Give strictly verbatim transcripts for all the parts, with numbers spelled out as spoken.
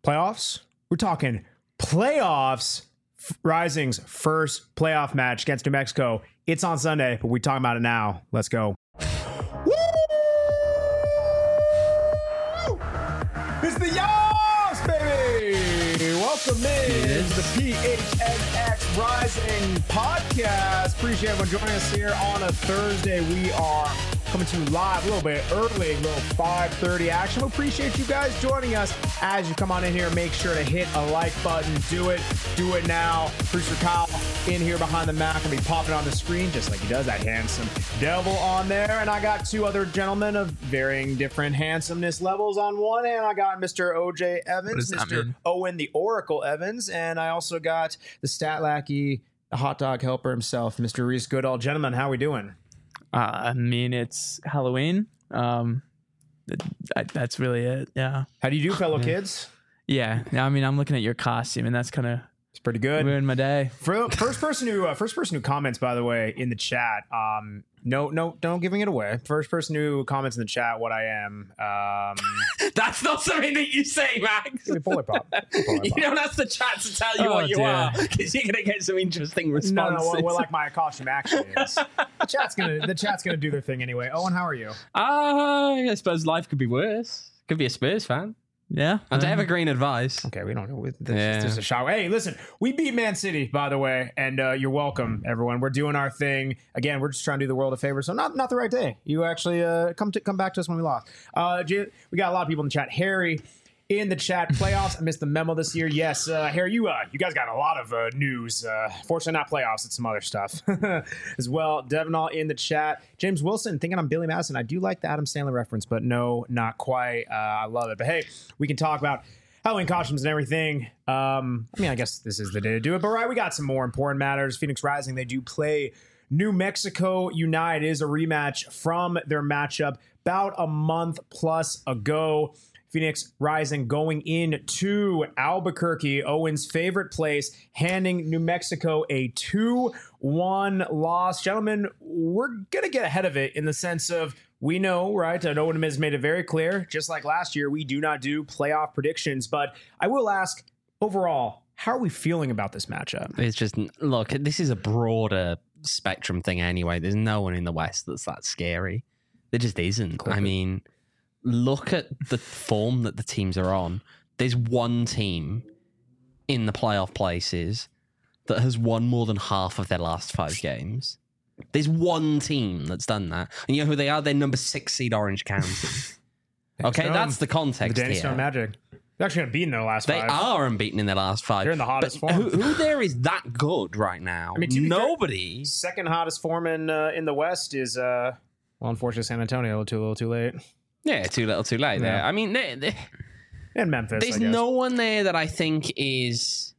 playoffs. We're talking playoffs. Rising's first playoff match against New Mexico. It's on Sunday, but we're talking about it now. Let's go. Woo! It's the Yas, baby! Welcome in to the P H N X Rising podcast. Appreciate everyone joining us here on a Thursday. We are coming to you live a little bit early, a little five thirty action. We appreciate you guys joining us. As you come on in here, make sure to hit a like button. Do it. Do it now. Producer Kyle in here behind the Mac will be popping on the screen just like he does. That handsome devil on there. And I got two other gentlemen of varying different handsomeness levels. On one hand, I got Mister O J Evans, Mister Owen the Oracle Evans, and I also got the stat lackey, the hot dog helper himself, Mister Reese Goodall. Gentlemen, how we doing? Uh, I mean, it's Halloween. Um, I, that's really it. Yeah. How do you do, fellow kids? Yeah. I mean, I'm looking at your costume, and that's kind of it's pretty good. Ruined my day. For first person who uh, first person who comments, by the way, in the chat. Um, no, no, don't giving it away. First person who comments in the chat what I am. Um, that's not something that you say, Max. Polar pop. Polar pop. You don't ask the chat to tell you Oh, what you dear. are, because you're gonna get some interesting No, responses. no, well, well, like my costume actually is. The chat's gonna the chat's gonna do their thing anyway. Owen, how are you? Uh, I suppose life could be worse. Could be a Spurs fan. Yeah. And Uh, evergreen advice. Okay, we don't know. This Yeah. is just a shower. Hey, listen, we beat Man City, by the way, and uh, you're welcome, everyone. We're doing our thing again. We're just trying to do the world a favor. So not not the right day. You actually uh, come to come back to us when we lost. Uh, J- we got a lot of people in the chat. Harry in the chat. Playoffs. I missed the memo this year. Yes, uh, Harry, you uh, you guys got a lot of uh, news. Uh, fortunately, not playoffs. It's some other stuff as well. Devinall in the chat. James Wilson thinking I'm Billy Madison. I do like the Adam Sandler reference, but no, not quite. Uh, I love it. But hey, we can talk about Halloween costumes and everything. Um, I mean, I guess this is the day to do it. But right, we got some more important matters. Phoenix Rising, they do play New Mexico United. It is a rematch from their matchup about a month plus ago. Phoenix Rising going in to Albuquerque, Owen's favorite place, handing New Mexico a two one loss. Gentlemen, we're going to get ahead of it in the sense of we know, right, and Owen has made it very clear, just like last year, we do not do playoff predictions. But I will ask, overall, how are we feeling about this matchup? It's just, look, this is a broader spectrum thing anyway. There's no one in the West that's that scary. There just isn't. Clip I it. mean, look at the form that the teams are on. There's one team in the playoff places that has won more than half of their last five games. There's one team that's done that. And you know who they are? They're number six seed Orange County. Okay, Stone. that's the The context Danny here. Stone Magic. They're actually going to beat in their last They five. are unbeaten in their last five. They're in the hottest But form. Who, who there is that good right now? I mean, to be fair, nobody. Second hottest form in uh, in the West is, uh, well, unfortunately, San Antonio. A little too, a little too late. Yeah, too little, too late there. Yeah. I mean, they, they, And Memphis, there's I guess. no one there that I think is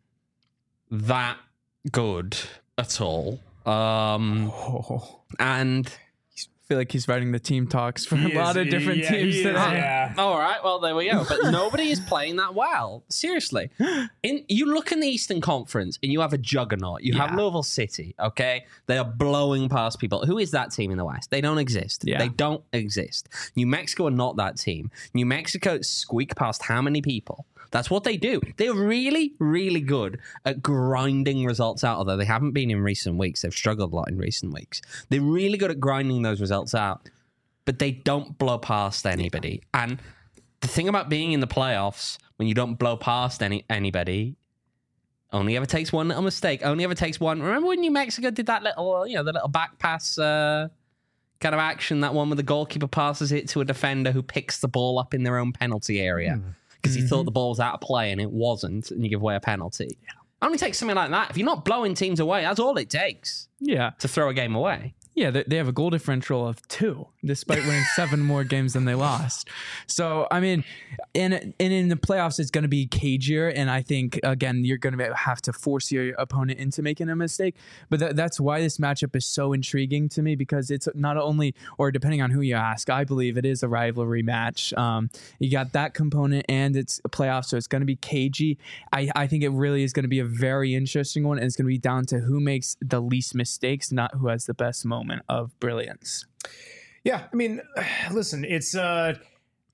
that good at all. Um, Oh. and I feel like he's writing the team talks for He a lot is- of different yeah, teams he is, today. yeah. all right, well there we go. But nobody is playing that well. Seriously, in you look in the Eastern Conference and you have a juggernaut. You have Yeah. Louisville City. Okay, they are blowing past people. Who is that team in the West? They don't exist. Yeah. They don't exist. New Mexico are not that team. New Mexico squeak past how many people? That's what they do. They're really, really good at grinding results out, although they haven't been in recent weeks. They've struggled a lot in recent weeks. They're really good at grinding those results out, but they don't blow past anybody. And the thing about being in the playoffs, when you don't blow past any anybody, only ever takes one little mistake. Only ever takes one. Remember when New Mexico did that little, you know, the little back pass uh, kind of action, that one where the goalkeeper passes it to a defender who picks the ball up in their own penalty area because he thought the ball was out of play and it wasn't, and you give away a penalty. Only takes something like that. If you're not blowing teams away, that's all it takes Yeah. to throw a game away. Yeah, they, they have a goal differential of two, despite winning seven more games than they lost. So, I mean, and, and in the playoffs, it's going to be cagier. And I think, again, you're going to have to force your opponent into making a mistake. But that, that's why this matchup is so intriguing to me, because it's not only, or depending on who you ask, I believe it is a rivalry match. Um, you got that component and it's a playoff, so it's going to be cagey. I, I think it really is going to be a very interesting one. And it's going to be down to who makes the least mistakes, not who has the best moment of brilliance. Yeah, I mean, listen, it's uh,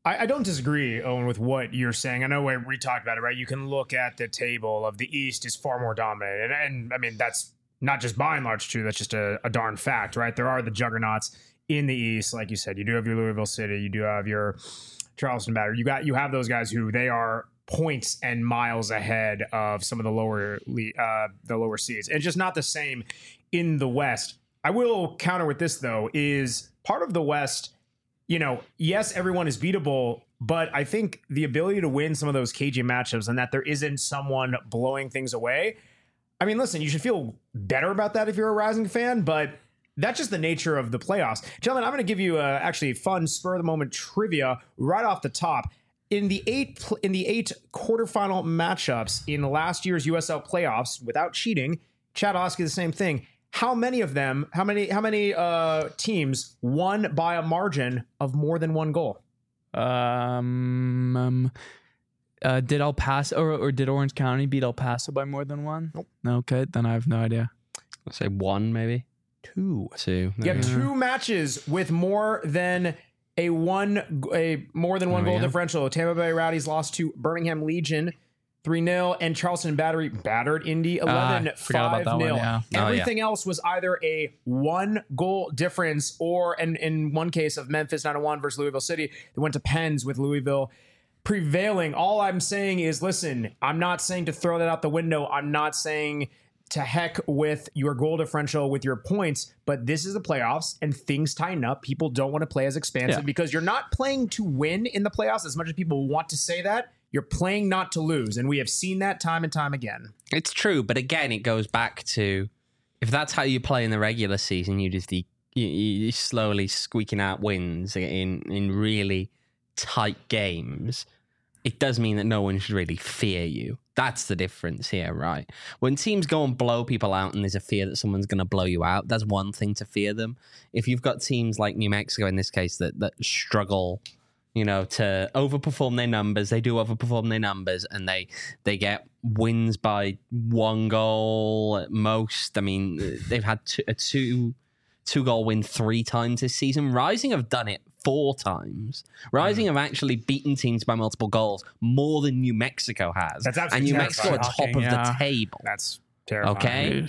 I, I don't disagree, Owen, with what you're saying. I know we, we talked about it, right? You can look at the table of the East is far more dominant. And, and I mean, that's not just by and large true. That's just a, a darn fact, right? There are the juggernauts in the East. Like you said, you do have your Louisville City. You do have your Charleston Battery. You got, you have those guys who they are points and miles ahead of some of the lower, uh, the lower seeds. And it's just not the same in the West. I will counter with this, though, is part of the West, you know, yes, everyone is beatable, but I think the ability to win some of those cagey matchups and that there isn't someone blowing things away. I mean, listen, you should feel better about that if you're a Rising fan, but that's just the nature of the playoffs. Gentlemen, I'm going to give you uh, actually fun spur of the moment trivia right off the top. In the eight in the eight quarterfinal matchups in last year's U S L playoffs, without cheating, Chad, I'll ask you the same thing. How many of them, how many, how many uh, teams won by a margin of more than one goal? Um, um uh, did El Paso or, or did Orange County beat El Paso by more than one? Nope. Okay, then I have no idea. I'll say one, maybe Two. two. You have two matches with more than a one, a more than one Oh, goal yeah. differential. Tampa Bay Rowdies lost to Birmingham Legion three nil, and Charleston Battery battered Indy eleven Ah, forgot about that five nil. one, yeah. Oh, yeah. Everything else was either a one goal difference or, and in one case of Memphis nine oh one versus Louisville City, they went to pens with Louisville prevailing. All I'm saying is, listen, I'm not saying to throw that out the window. I'm not saying to heck with your goal differential with your points, but this is the playoffs and things tighten up. People don't want to play as expansive Yeah. because you're not playing to win in the playoffs as much as people want to say that. You're playing not to lose, and we have seen that time and time again. It's true, but again, it goes back to if that's how you play in the regular season, you just you, you slowly squeaking out wins in in really tight games. It does mean that no one should really fear you. That's the difference here, right? When teams go and blow people out and there's a fear that someone's going to blow you out, that's one thing to fear them. If you've got teams like New Mexico in this case that that struggle, you know, to overperform their numbers, they do overperform their numbers, and they they get wins by one goal at most. I mean, they've had two, a two two goal win three times this season. Rising have done it four times. Rising have actually beaten teams by multiple goals more than New Mexico has. That's absolutely and New terrifying. Mexico are top of Yeah. the table. That's terrifying. Okay.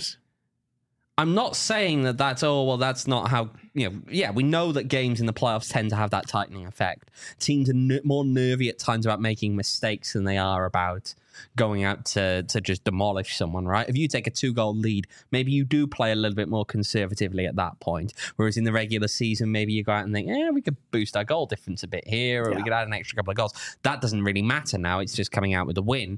I'm not saying that that's, oh, well, that's not how, you know, yeah, we know that games in the playoffs tend to have that tightening effect. Teams are n- more nervy at times about making mistakes than they are about going out to, to just demolish someone, right? If you take a two-goal lead, maybe you do play a little bit more conservatively at that point. Whereas in the regular season, maybe you go out and think, eh, we could boost our goal difference a bit here, or Yeah. we could add an extra couple of goals. That doesn't really matter now. It's just coming out with a win.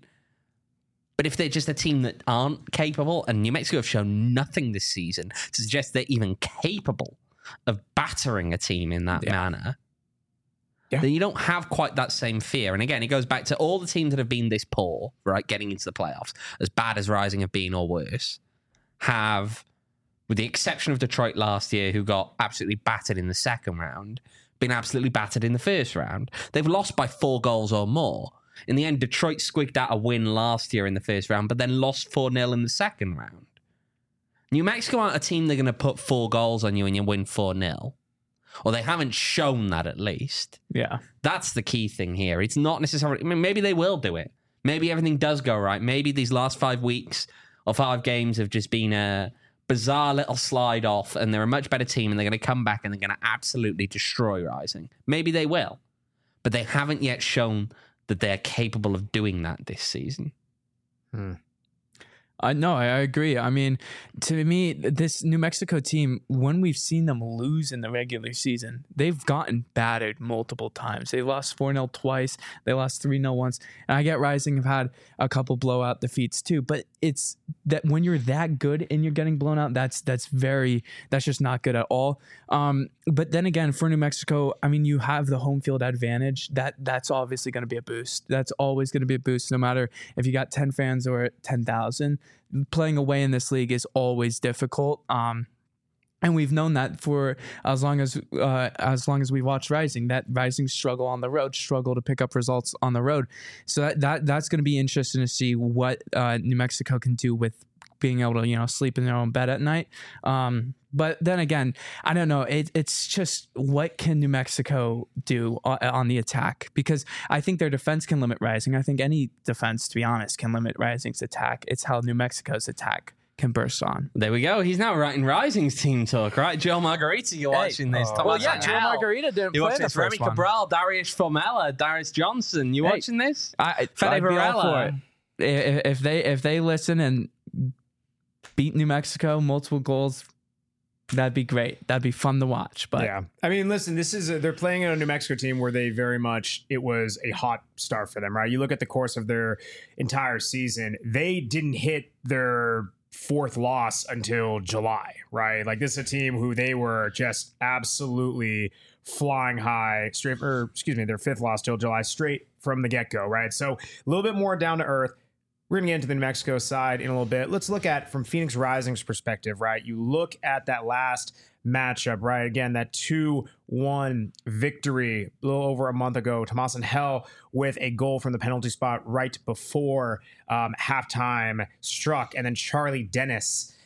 But if they're just a team that aren't capable, and New Mexico have shown nothing this season to suggest they're even capable of battering a team in that Yeah. manner, Yeah. then you don't have quite that same fear. And again, it goes back to all the teams that have been this poor, right, getting into the playoffs, as bad as Rising have been or worse, have, with the exception of Detroit last year, who got absolutely battered in the second round, been absolutely battered in the first round. They've lost by four goals or more. In the end, Detroit squigged out a win last year in the first round, but then lost four nil in the second round. New Mexico aren't a team they're going to put four goals on you and you win four nil. Or they haven't shown that, at least. Yeah. That's the key thing here. It's not necessarily... I mean, maybe they will do it. Maybe everything does go right. Maybe these last five weeks or five games have just been a bizarre little slide off and they're a much better team and they're going to come back and they're going to absolutely destroy Rising. Maybe they will. But they haven't yet shown that they're capable of doing that this season. I no, I agree. I mean, to me, this New Mexico team, when we've seen them lose in the regular season, they've gotten battered multiple times. They lost four nil twice. They lost three nil once. And I get Rising have had a couple blowout defeats too, but it's that when you're that good and you're getting blown out, that's that's very, that's just not good at all. Um, but then again, for New Mexico, I mean, you have the home field advantage. That That's obviously going to be a boost. That's always going to be a boost, no matter if you got ten fans or ten thousand. Playing away in this league is always difficult. Um, and we've known that for as long as uh, as long as we watch Rising, that Rising struggle on the road, struggle to pick up results on the road. So that, that that's going to be interesting to see what uh, New Mexico can do with being able to, you know, sleep in their own bed at night. Um, but then again, I don't know. It, it's just what can New Mexico do on, on the attack? Because I think their defense can limit Rising. I think any defense, to be honest, can limit Rising's attack. It's how New Mexico's attack can burst on. There we go. He's now writing Rising's team talk, right? Joel Margarita, you're Hey. watching this. Oh. Thomas Well, yeah, Angel. Joel Margarita didn't You play watching in the this? Remy first one. Cabral, Darius Formella, Darius Johnson. You Hey. watching this? I, Fede I'd be all Varela. for it. If, if they if they listen and beat New Mexico multiple goals, that'd be great. That'd be fun to watch. But yeah, I mean, listen, this is a, they're playing in a New Mexico team where they very much it was a hot start for them, right? You look at the course of their entire season, they didn't hit their fourth loss until July, right? Like this is a team who they were just absolutely flying high straight, or excuse me, their fifth loss till July straight from the get go, right? So a little bit more down to earth. We're going to get into the New Mexico side in a little bit. Let's look at from Phoenix Rising's perspective, right? You look at that last matchup, right? Again, that two one victory a little over a month ago. Tomas Angel with a goal from the penalty spot right before um, halftime struck. And then Charlie Dennis,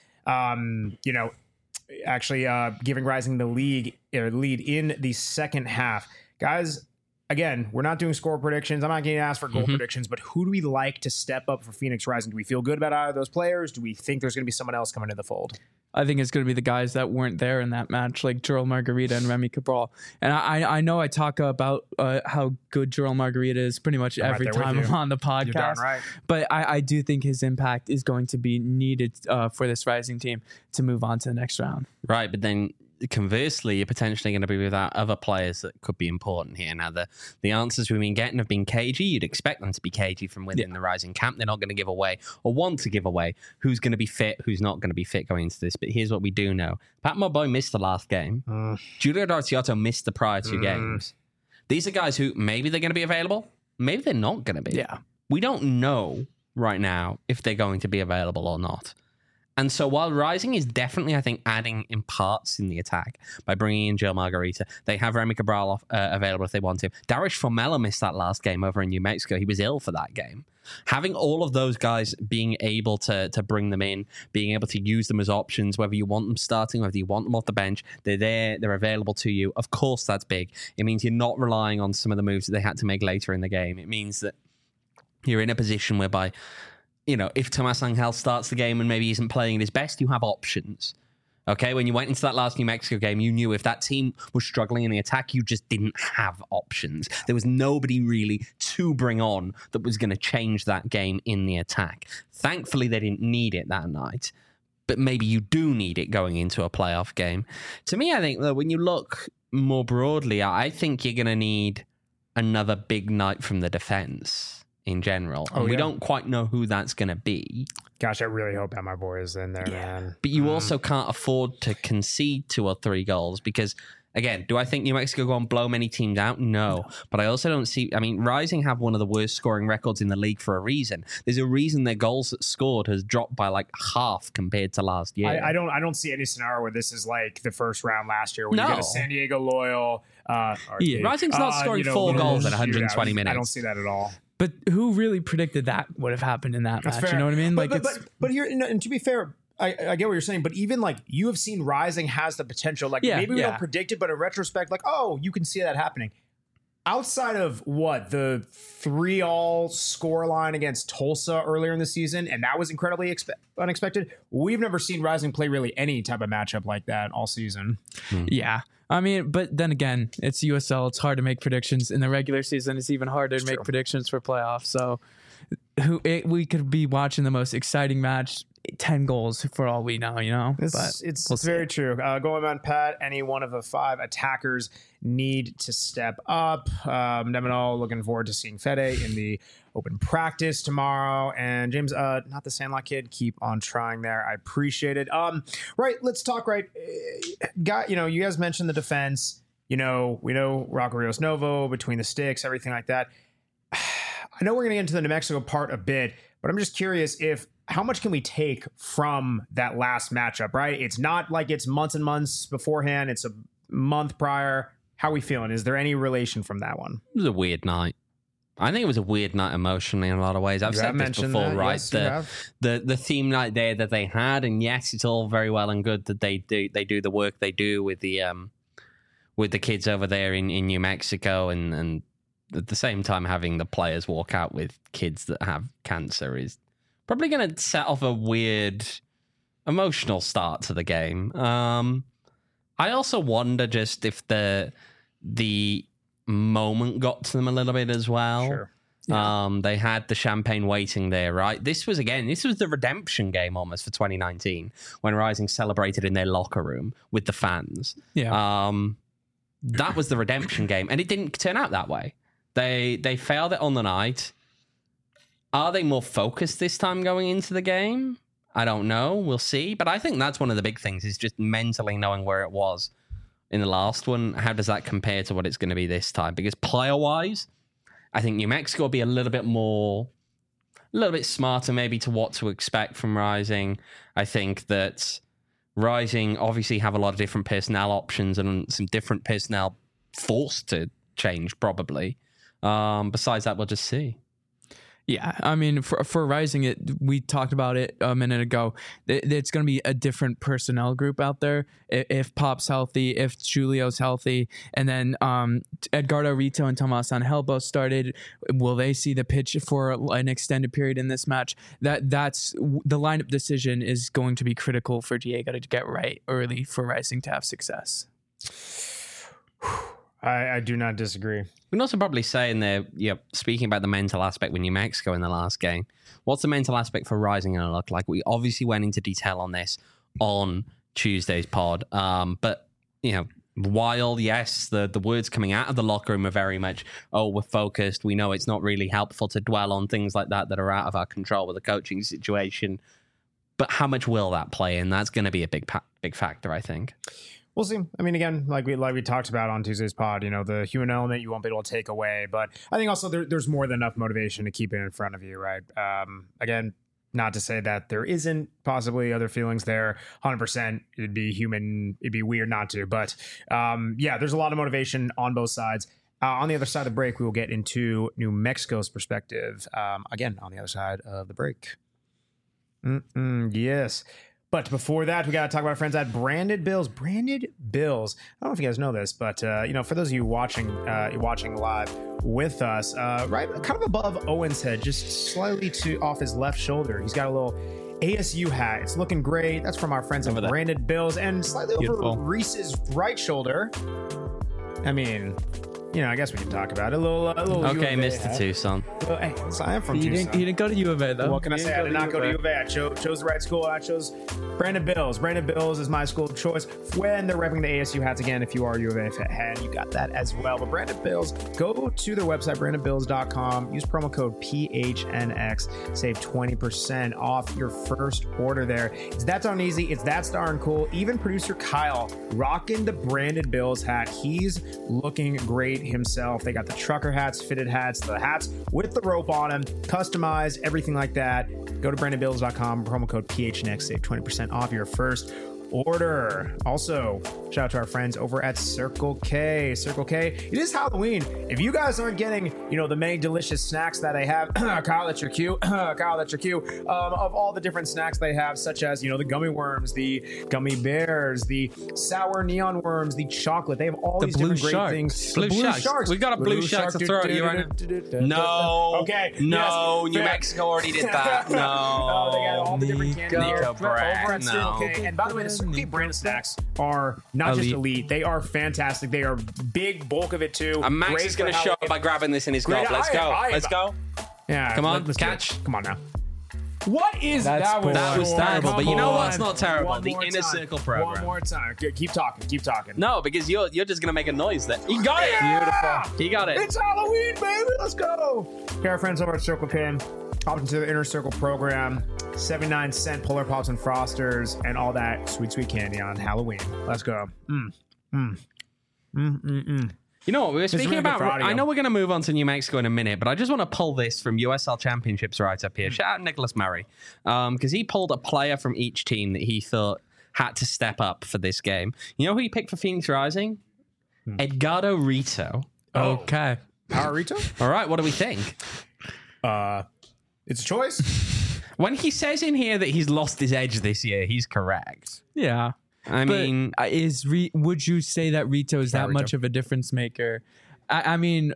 um, you know, actually uh, giving Rising the league or lead in the second half. Guys, again, we're not doing score predictions. I'm not going to ask for goal Mm-hmm. predictions, but who do we like to step up for Phoenix Rising? Do we feel good about either of those players? Do we think there's going to be someone else coming to the fold? I think it's going to be the guys that weren't there in that match, like Joel Margarita and Remy Cabral. And I, I know I talk about uh, how good Joel Margarita is pretty much I'm right every there with time you. I'm on the You're darn podcast. right. But I, I do think his impact is going to be needed uh, for this Rising team to move on to the next round. Right, but then conversely, you're potentially going to be without other players that could be important here. Now, the, the answers we've been getting have been cagey. You'd expect them to be cagey from within Yeah. the Rising camp. They're not going to give away or want to give away who's going to be fit, who's not going to be fit going into this. But here's what we do know. Pat Moboy missed the last game. Mm. Julio D'Arciotto missed the prior two Mm. games. These are guys who maybe they're going to be available. Maybe they're not going to be. Yeah. We don't know right now if they're going to be available or not. And so while Rising is definitely, I think, adding in parts in the attack by bringing in Joel Margarita, they have Remy Cabral off, uh, available if they want to. Darius Formella missed that last game over in New Mexico. He was ill for that game. Having all of those guys being able to to bring them in, being able to use them as options, whether you want them starting, whether you want them off the bench, they're there, they're available to you. Of course, that's big. It means you're not relying on some of the moves that they had to make later in the game. It means that you're in a position whereby, you know, if Tomas Angel starts the game and maybe isn't playing at his best, you have options. Okay, when you went into that last New Mexico game, you knew if that team was struggling in the attack, you just didn't have options. There was nobody really to bring on that was going to change that game in the attack. Thankfully, they didn't need it that night, but maybe you do need it going into a playoff game. To me, I think that when you look more broadly, I think you're going to need another big night from the defense in general. And Oh, we yeah. don't quite know who that's going to be. Gosh, I really hope that my boy is in there, man. But you Mm. also can't afford to concede two or three goals because, again, do I think New Mexico go and blow many teams out? No. But I also don't see... I mean, Rising have one of the worst scoring records in the league for a reason. There's a reason their goals scored has dropped by like half compared to last year. I, I don't. I don't see any scenario where this is like the first round last year, where you No. get a San Diego Loyal. Uh, Yeah. Rising's not uh, scoring you know, four little goals in one hundred twenty shootouts. minutes. I don't see that at all. But who really predicted that would have happened in that That's match? fair. You know what I mean? But, Like, but, it's but, but here, and to be fair, I, I get what you're saying. But even like you have seen Rising has the potential. Like Yeah, maybe we yeah. don't predict it, but in retrospect, like oh, you can see that happening. Outside of what the three all score line against Tulsa earlier in the season, and that was incredibly expe- unexpected. We've never seen Rising play really any type of matchup like that all season. Yeah. I mean, but then again, it's U S L. It's hard to make predictions. In the regular season, it's even harder to make true. predictions for playoffs. So who it, we could be watching the most exciting match, ten goals for all we know, you know? It's but it's, we'll it's see. very true. Uh, going on, Pat, any one of the five attackers need to step up. Um, Nemino, looking forward to seeing Fede in the open practice tomorrow. And James, uh, not the Sandlot kid, keep on trying there. I appreciate it. Um, right, let's talk. Right, uh, got you know, you guys mentioned the defense. You know, we know Rocco Rios Novo between the sticks, everything like that. I know we're going to get into the New Mexico part a bit, but I'm just curious if how much can we take from that last matchup, right? It's not like it's months and months beforehand. It's a month prior. How are we feeling? Is there any relation from that one? It was a weird night. I think it was a weird night emotionally in a lot of ways. I've You said have this mentioned before, that. right? Yes, you the, have. the the theme night there that they had, and yes, it's all very well and good that they do they do the work they do with the um with the kids over there in, in New Mexico, and and at the same time having the players walk out with kids that have cancer is probably going to set off a weird emotional start to the game. Um, I also wonder just if the the moment got to them a little bit as well. Sure. Yeah. Um, they had the champagne waiting there, right? This was, again, this was the redemption game almost for twenty nineteen when Rising celebrated in their locker room with the fans. Yeah. Um, that was the redemption game, and it didn't turn out that way. They they failed it on the night. Are they more focused this time going into the game? I don't know. We'll see. But I think that's one of the big things, is just mentally knowing where it was in the last one. How does that compare to what it's going to be this time? Because player-wise, I think New Mexico will be a little bit more, a little bit smarter maybe to what to expect from Rising. I think that Rising obviously have a lot of different personnel options and some different personnel forced to change probably. Um, besides that, we'll just see. Yeah, I mean, for for Rising, it we talked about it a minute ago. It, it's going to be a different personnel group out there. If, if Pop's healthy, if Julio's healthy, and then um, Edgardo Rito and Tomas Angel both started, will they see the pitch for an extended period in this match? That that's the lineup decision is going to be critical for Diego to get right early for Rising to have success. I, I do not disagree. We can also probably say in there, yeah, speaking about the mental aspect with New Mexico in the last game, what's the mental aspect for Rising going to look like? We obviously went into detail on this on Tuesday's pod, um, but, you know, while, yes, the, the words coming out of the locker room are very much, oh, we're focused, we know it's not really helpful to dwell on things like that that are out of our control with the coaching situation, but how much will that play in? That's going to be a big, pa- big factor, I think. We'll see. I mean, again, like we like we talked about on Tuesday's pod, you know, the human element you won't be able to take away. But I think also there, there's more than enough motivation to keep it in front of you, right? Um, again, not to say that there isn't possibly other feelings there. one hundred percent, it'd be human. It'd be weird not to. But um, yeah, there's a lot of motivation on both sides. Uh, on the other side of the break, we will get into New Mexico's perspective. Um, again, on the other side of the break. Mm-mm, yes. But before that, we got to talk about our friends at Branded Bills. Branded Bills. I don't know if you guys know this, but uh, you know, for those of you watching, uh, watching live with us, uh, right, kind of above Owen's head, just slightly to off his left shoulder, he's got a little A S U hat. It's looking great. That's from our friends at Branded Bills, and slightly Beautiful. over Reese's right shoulder. I mean, you know, I guess we can talk about it. A little, a little. Okay, U of A Mister hat. Tucson. Well, hey, so I am from He Tucson. didn't, he didn't go to U of A, though. What can I He say? didn't I did not go to U U of of A. I cho- chose the right school. I chose Brandon Bills. Brandon Bills is my school of choice when they're repping the A S U hats. Again, if you are a U of A fan, you got that as well. But Brandon Bills, go to their website, brandon bills dot com. Use promo code P H N X. Save twenty percent off your first order there. It's that darn easy. It's that darn cool. Even producer Kyle rocking the Brandon Bills hat. He's looking great himself. They got the trucker hats, fitted hats, the hats with the rope on them, customized, everything like that. Go to brandon bills dot com, promo code P H N X, save twenty percent off your first order. Also, shout out to our friends over at Circle K. Circle K, it is Halloween. If you guys aren't getting, you know, the many delicious snacks that they have, Kyle, that's your cue. Kyle, that's your cue. Um, of all the different snacks they have, such as, you know, the gummy worms, the gummy bears, the sour neon worms, the chocolate. They have all The these blue different great sharks. things. Blue The sharks. We got a blue shark to throw at you right now. No. Okay. No. yes, New fair. Mexico already did that. No. Oh, they got all the different candy Nico here Brat, over at Circle no. K. And by the way, the Circle K brand snacks are not just Elite. elite; they are fantastic. They are big bulk of it too. And Max Great is going to for show up Halloween. by grabbing this in his Great. gob. Let's I go. am- I am- Let's go. Yeah, Come on, let- let's do it. catch. Come on now. What is That's that? poor. That was so- terrible, but you know Come what's on. not terrible? One The more Inner time. Circle program. One more time. Ke- Keep talking. Keep talking. No, because you're you're just going to make a noise there. You got it. Yeah! Beautiful. You got it. It's Halloween, baby. Let's go. Okay, our friends over at Circle K, opt into the Inner Circle program. seventy-nine cent Polar Pops and Frosters and all that sweet, sweet candy on Halloween. Let's go. Mm. Mm. Mm, mm, mm. You know what? We were is speaking really good about. for audio. I know we're going to move on to New Mexico in a minute, but I just want to pull this from U S L Championships right up here. Shout out Nicholas Murray, because he pulled a player from each team that he thought had to step up for this game. You know who he picked for Phoenix Rising? Hmm. Edgardo Rito. Oh. Okay. Power Rito? All right, what do we think? Uh, it's a choice. When he says in here that he's lost his edge this year, he's correct. Yeah. I But mean, uh, is Re- would you say that Rito is Yeah, that Rito. much of a difference maker? I, I mean,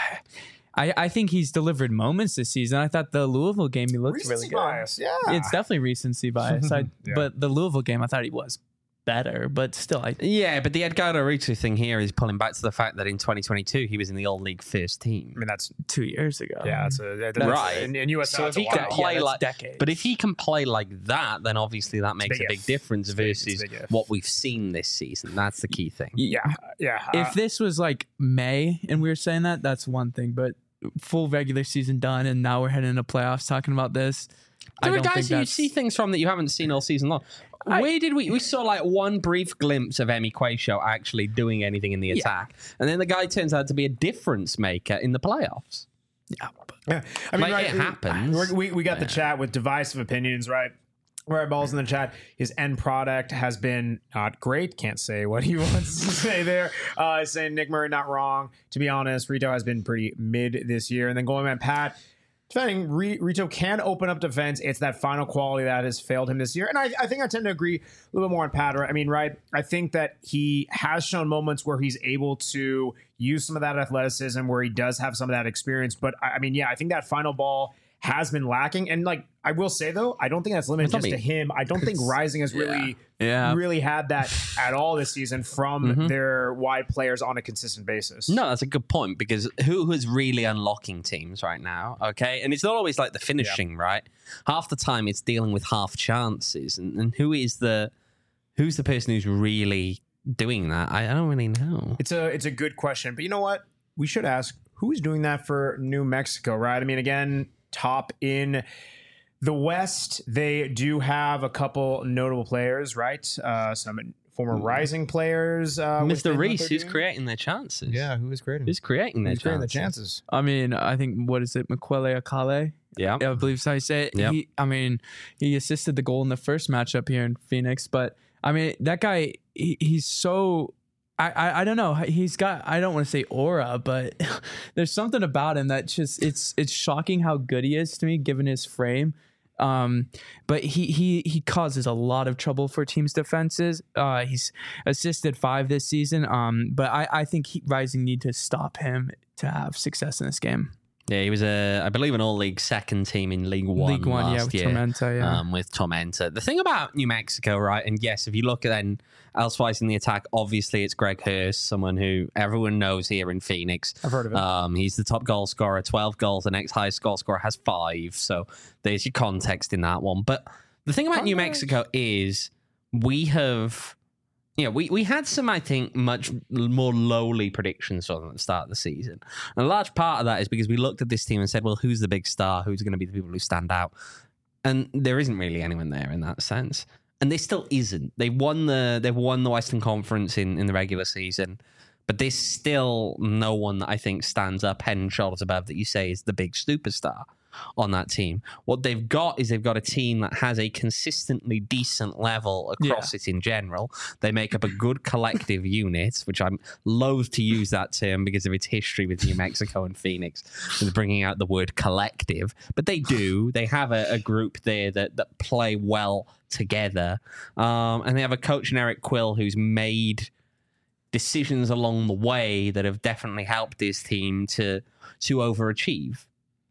I, I think he's delivered moments this season. I thought the Louisville game he looked Recency really good. bias, yeah. It's definitely recency bias. I, Yeah. But the Louisville game, I thought he was better. But still, I yeah, but the Edgardo Rito thing here is pulling back to the fact that in twenty twenty-two he was in the All League first team. I mean, that's two years ago. yeah, that's a that's, Right. In, in U S, So that's if a he can while. play Yeah, that's like, decades. but if he can play like that, then obviously that makes big a big if. difference It's big- it's versus big if. what we've seen this season. That's the key thing. yeah, yeah. If uh, this was like May and we were saying that, that's one thing. But full regular season done, and now we're heading into playoffs talking about this. I There are don't think guys who you that's see things from that you haven't seen all season long. I- Where did we? We saw like one brief glimpse of Emi Quayshow actually doing anything in the attack, and then the guy turns out to be a difference maker in the playoffs. yeah, but- yeah. I mean, Like, right, it happens. we're- We we got the chat with divisive opinions, right? Right, Balls in the chat. His end product has been not great. Can't say what he wants to say there. Uh, saying Nick Murray not wrong. To be honest, Rito has been pretty mid this year. And then going man Pat, defending Re- Rito can open up defense. It's that final quality that has failed him this year. And I, I think I tend to agree a little bit more on Pat. Right? I mean, right? I think that he has shown moments where he's able to use some of that athleticism, where he does have some of that experience. But I, I mean, yeah, I think that final ball has been lacking. And like I will say though, I don't think that's limited It's not just to me. him. I don't think Rising has really Yeah. really had that at all this season from Mhm. their wide players on a consistent basis. No, that's a good point because who is really unlocking teams right now? Okay, and it's not always like the finishing, right? Half the time it's dealing with half chances, and, and who is the who's the person who's really doing that? I, I don't really know. It's a it's a good question, but you know what? We should ask who is doing that for New Mexico, right? I mean, again, top in the West, they do have a couple notable players, right? Uh, some former Rising players. Uh, within Mister what Reese, they're who's doing. creating their chances? Yeah, who is creating? who's creating their Who's creating the chances? chances? I mean, I think what is it, Makwele Akale? Yeah. I believe so. I say it. Yep. He, I mean, he assisted the goal in the first matchup here in Phoenix, but I mean, that guy, he, he's so. I, I I don't know. He's got. I don't want to say aura, but there's something about him that just it's it's shocking how good he is to me, given his frame. Um, but he he he causes a lot of trouble for teams' defenses. Uh, he's assisted five this season. Um, but I I think he, Rising need to stop him to have success in this game. Yeah, he was a, I believe, an all-league second team in League One. League One, yeah, last with year, Tormenta, yeah. um, with Tormenta. The thing about New Mexico, right? And yes, if you look at then elsewise in the attack, obviously it's Greg Hurst, someone who everyone knows here in Phoenix. I've heard of it. Um, he's the top goal scorer, twelve goals. The next highest goal scorer has five. So there's your context in that one. But the thing about New Mexico is we have. Yeah, we, we had some, I think, much more lowly predictions on the start of the season. And a large part of that is because we looked at this team and said, well, who's the big star? Who's going to be the people who stand out? And there isn't really anyone there in that sense. And there still isn't. They've won the they've won the Western Conference in, in the regular season, but there's still no one that I think stands up head and shoulders above that you say is the big superstar on that team. What they've got is they've got a team that has a consistently decent level across it in general. They make up a good collective unit, which I'm loath to use that term because of its history with New Mexico and Phoenix, with bringing out the word collective. But they do. They have a, a group there that, that play well together. Um, and they have a coach in Eric Quill who's made decisions along the way that have definitely helped this team to to overachieve.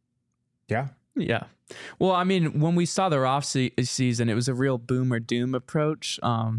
Yeah. Yeah. Well, I mean, when we saw their off se- season, it was a real boom or doom approach. Um,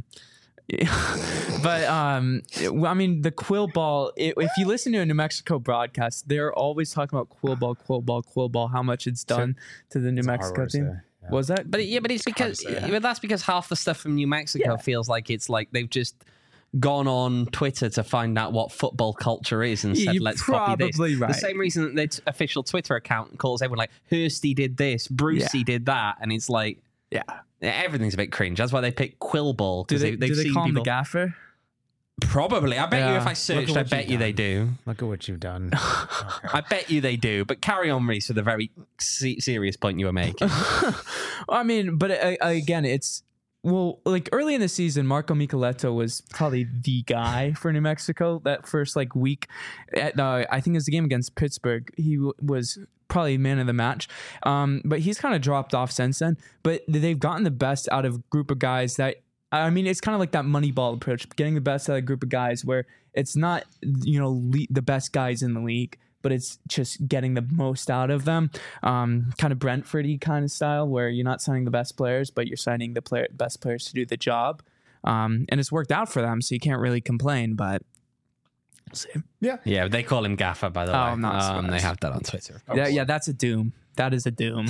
but um, it- I mean, the Quill ball. It, if you listen to a New Mexico broadcast, they're always talking about Quill ball, Quill ball, Quill ball. How much it's done to the New It's a hard Mexico word to team. say. Yeah. Was that? But yeah, but it's because to say. but that's because half the stuff from New Mexico Yeah. feels like it's like they've just gone on Twitter to find out what football culture is and Yeah, said, you're let's copy this. probably right. The same reason that their t- official Twitter account calls everyone like, Hursty did this, Brucey Yeah. did that. And it's like, Yeah. everything's a bit cringe. That's why they pick Quillball. Do Because they, they, they've do they seen call him the people. gaffer? Probably. I bet you Yeah. if I Look searched, at I what bet you've you they done. do. Look at what you've done. I bet you they do. But carry on, Reese, with a very se- serious point you were making. I mean, but uh, again, it's well, like early in the season, Marco Micheletto was probably the guy for New Mexico. That first like week, at, uh, I think it was the game against Pittsburgh. He w- was probably man of the match. Um, but he's kind of dropped off since then. But they've gotten the best out of a group of guys that, I mean, it's kind of like that Moneyball approach, getting the best out of a group of guys where it's not, you know, le- the best guys in the league, but it's just getting the most out of them. Um, kind of Brentford-y kind of style where you're not signing the best players, but you're signing the player, best players to do the job. Um, and it's worked out for them, so you can't really complain, but we'll see. Yeah. Yeah, they call him Gaffer, by the Oh, way. I'm not um, they surprised. have that on Twitter. Yeah, yeah, that's a doom. That is a doom.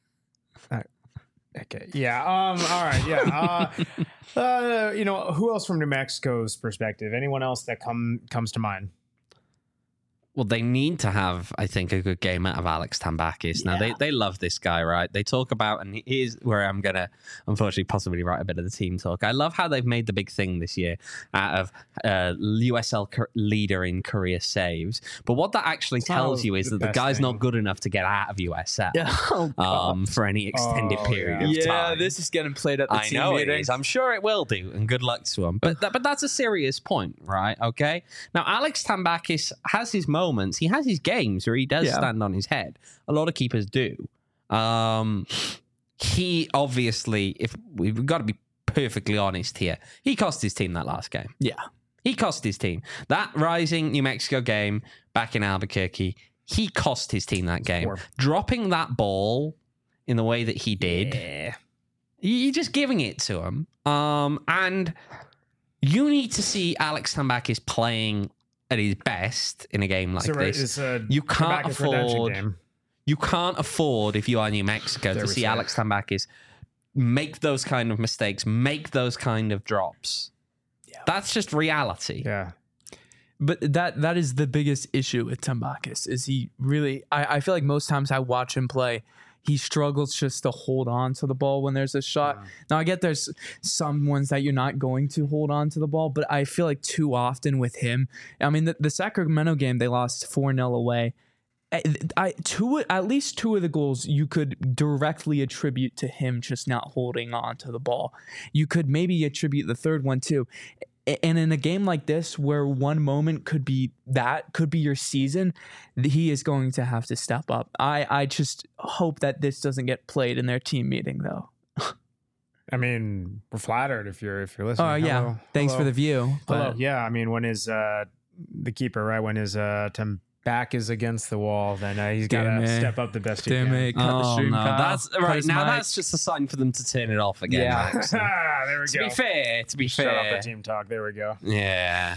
Okay. Yeah. Um. All right. Yeah. Uh, uh. You know, who else from New Mexico's perspective? Anyone else that come comes to mind? Well, they need to have, I think, a good game out of Alex Tambakis. Now, they, they love this guy, right? They talk about, and here's where I'm going to, unfortunately, possibly write a bit of the team talk. I love how they've made the big thing this year out of uh, U S L co- leader in career saves. But what that actually It's not tells you is the that the best guy's thing. not good enough to get out of U S L Oh, um, for any extended Oh, period yeah. of yeah, time. this is getting played at the I team know it meeting. is. I'm sure it will do, and good luck to him. But that, but that's a serious point, right? Okay. Now, Alex Tambakis has his moments. He has his games where he does Yeah. stand on his head. A lot of keepers do. Um, he obviously, if we've got to be perfectly honest here, he cost his team that last game. Yeah. He cost his team that Rising New Mexico game back in Albuquerque. He cost his team that game, Poor. dropping that ball in the way that he did. Yeah. You're just giving it to him. Um, and you need to see Alex Tambakis playing at his best in a game like So, right, this. it's a You can't Trebek's redemption afford. game. You can't afford, if you are New Mexico, There to we see say Alex Tambakis make those kind of mistakes, make those kind of drops. Yeah. That's just reality. Yeah. But that that is the biggest issue with Tambakis is he really I, I feel like most times I watch him play, he struggles just to hold on to the ball when there's a shot. Yeah. Now I get there's some ones that you're not going to hold on to the ball, but I feel like too often with him. I mean the, the Sacramento game they lost four nil away. I, I two at least two of the goals you could directly attribute to him just not holding on to the ball. You could maybe attribute the third one too. And in a game like this, where one moment could be that, could be your season, he is going to have to step up. I, I just hope that this doesn't get played in their team meeting, though. I mean, we're flattered if you're if you're listening. Oh, yeah. Hello. Thanks for Hello. the view. Hello. But Yeah. I mean, when his uh, the keeper, right? When his uh, Tim back is against the wall, then uh, he's got Damn to it. step up the best he Damn can. it. Cut the Oh, stream, no. Kyle. That's Cut right his now. mic. That's just a sign for them to turn it off again. Yeah. Max. Ah, there we to go. be fair, to be Shut off fair, the team talk. There we go. yeah.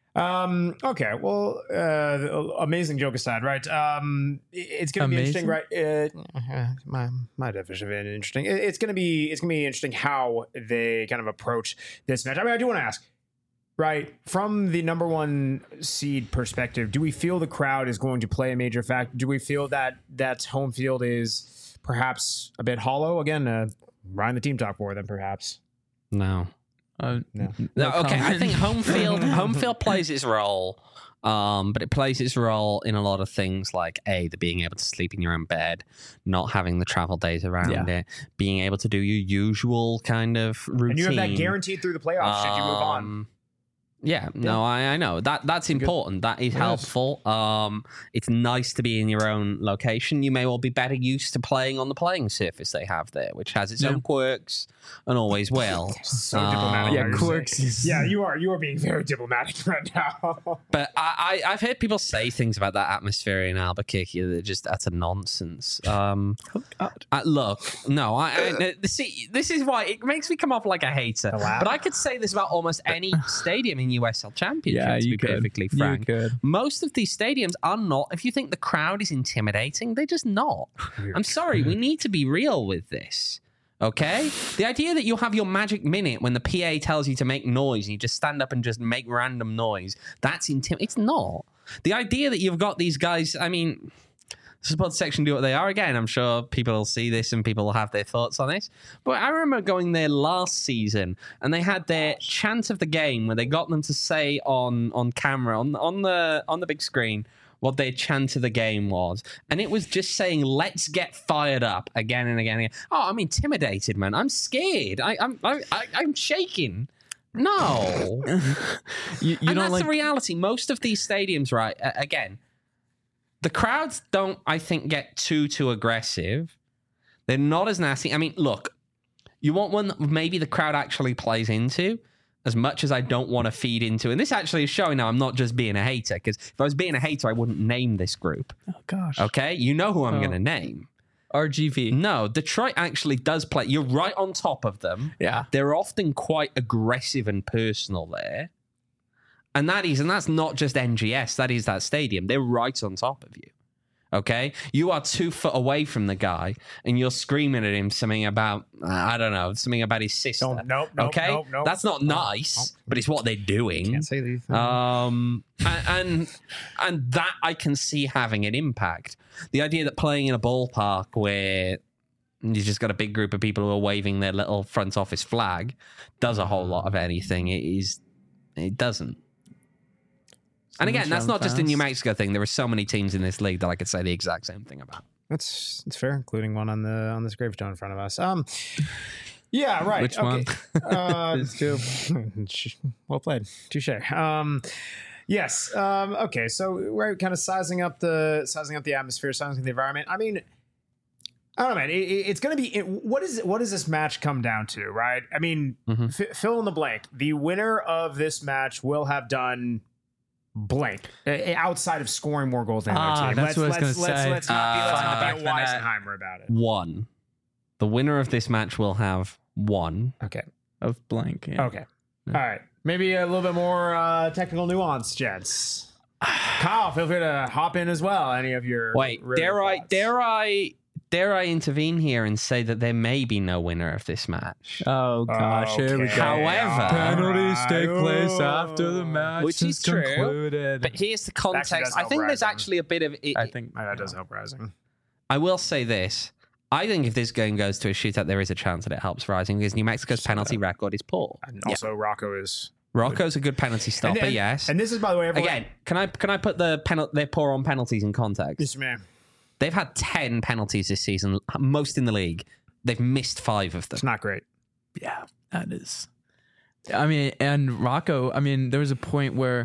Um, okay, well, uh, amazing joke aside, right? Um, it- it's going to be interesting, right? Uh, my my definition of it interesting. It- It's going to be it's going to be interesting how they kind of approach this match. I mean, I do want to ask, right, from the number one seed perspective, do we feel the crowd is going to play a major factor? Do we feel that that home field is perhaps a bit hollow? Again, uh, Ryan the team talk for them, perhaps. No. Uh, No. No, okay, I comment. think home field home field plays its role, um, but it plays its role in a lot of things like a the being able to sleep in your own bed, not having the travel days around Yeah. it, being able to do your usual kind of routine. And you have that guaranteed through the playoffs. Should you move on? Um, Yeah, no, I, I know that that's important. That is It is. helpful. Um, it's nice to be in your own location. You may well be better used to playing on the playing surface they have there, which has its Yeah. own quirks and always will. So Um, diplomatic. Yeah, how you're quirks saying. is- Yeah, you are. You are being very diplomatic right now. But I, I, I've heard people say things about that atmosphere in Albuquerque that are just utter nonsense. Um, I, look, no, I, I see. This is why it makes me come off like a hater. The laugh. But I could say this about almost any stadium in U S L Championship. yeah, to you be could. perfectly You frank. could. Most of these stadiums are not. If you think the crowd is intimidating, they're just not. I'm sorry. We need to be real with this. Okay? The idea that you have your magic minute when the P A tells you to make noise and you just stand up and just make random noise, that's intimidating. It's not. The idea that you've got these guys, I mean, support section do what they are. Again, I'm sure people will see this and people will have their thoughts on this. But I remember going there last season and they had their chant of the game where they got them to say on on camera, on on the on the big screen, what their chant of the game was. And it was just saying, let's get fired up again and again and again. Oh, I'm intimidated, man. I'm scared. I, I'm I, I, I'm shaking. No. You, you and don't that's like the reality. Most of these stadiums, right, uh, again, the crowds don't, I think, get too, too aggressive. They're not as nasty. I mean, look, you want one that maybe the crowd actually plays into, as much as I don't want to feed into. And this actually is showing now I'm not just being a hater, because if I was being a hater, I wouldn't name this group. Oh gosh. Okay? You know who I'm Oh. going to name. R G V. No, Detroit actually does play. You're right on top of them. Yeah. They're often quite aggressive and personal there. And that is, and that's not just N G S, that is that stadium. They're right on top of you. Okay? You are two foot away from the guy and you're screaming at him something about, uh, I don't know, something about his sister. Don't- nope, nope, okay? nope, nope. That's not nice, Nope. but it's what they're doing. Can't say these things. Um, and, and and that I can see having an impact. The idea that playing in a ballpark where you just got a big group of people who are waving their little front office flag does a whole lot of anything. It is, it doesn't. And again, that's not just a New Mexico thing. There are so many teams in this league that I could say the exact same thing about. That's that's fair, including one on the on this gravestone in front of us. Um, yeah, right. Which okay. one? Uh, There's two. well played, touche. Um, yes. Um, okay, so we're kind of sizing up the sizing up the atmosphere, sizing up the environment. I mean, I don't know, man. It, it, it's going to be it, what is what does this match come down to, right? I mean, Mhm. f- fill in the blank. The winner of this match will have done blank uh, outside of scoring more goals than the Ah, other team. that's let's, what I was let's, gonna let's, say. let's not be, let's Uh, not be a back to Weisenheimer about it. One, the winner of this match will have one. Okay. Of blank. Yeah. Okay. All right. Maybe a little bit more uh, technical nuance, gents. Kyle, feel free to hop in as well. Any of your Wait, riveting dare I, thoughts. dare I, dare I intervene here and say that there may be no winner of this match? Oh gosh, here we Okay. go. However- penalties All take right. place Ooh. after the match Which is is true, concluded. But here's the actually context. does I help think there's Rising. actually a bit of. It, I think Oh, that does help Rising. I will say this. I think if this game goes to a shootout, there is a chance that it helps Rising because New Mexico's penalty record is poor. And also, Rocco is. Rocco's a good penalty stopper, and, and, yes. And this is, by the way, everyone. Again, can I can I put the penalty? They're poor on penalties in context. Yes, man. They've had ten penalties this season, most in the league. They've missed five of them. It's not great. Yeah, that is. I mean, and Rocco, I mean, there was a point where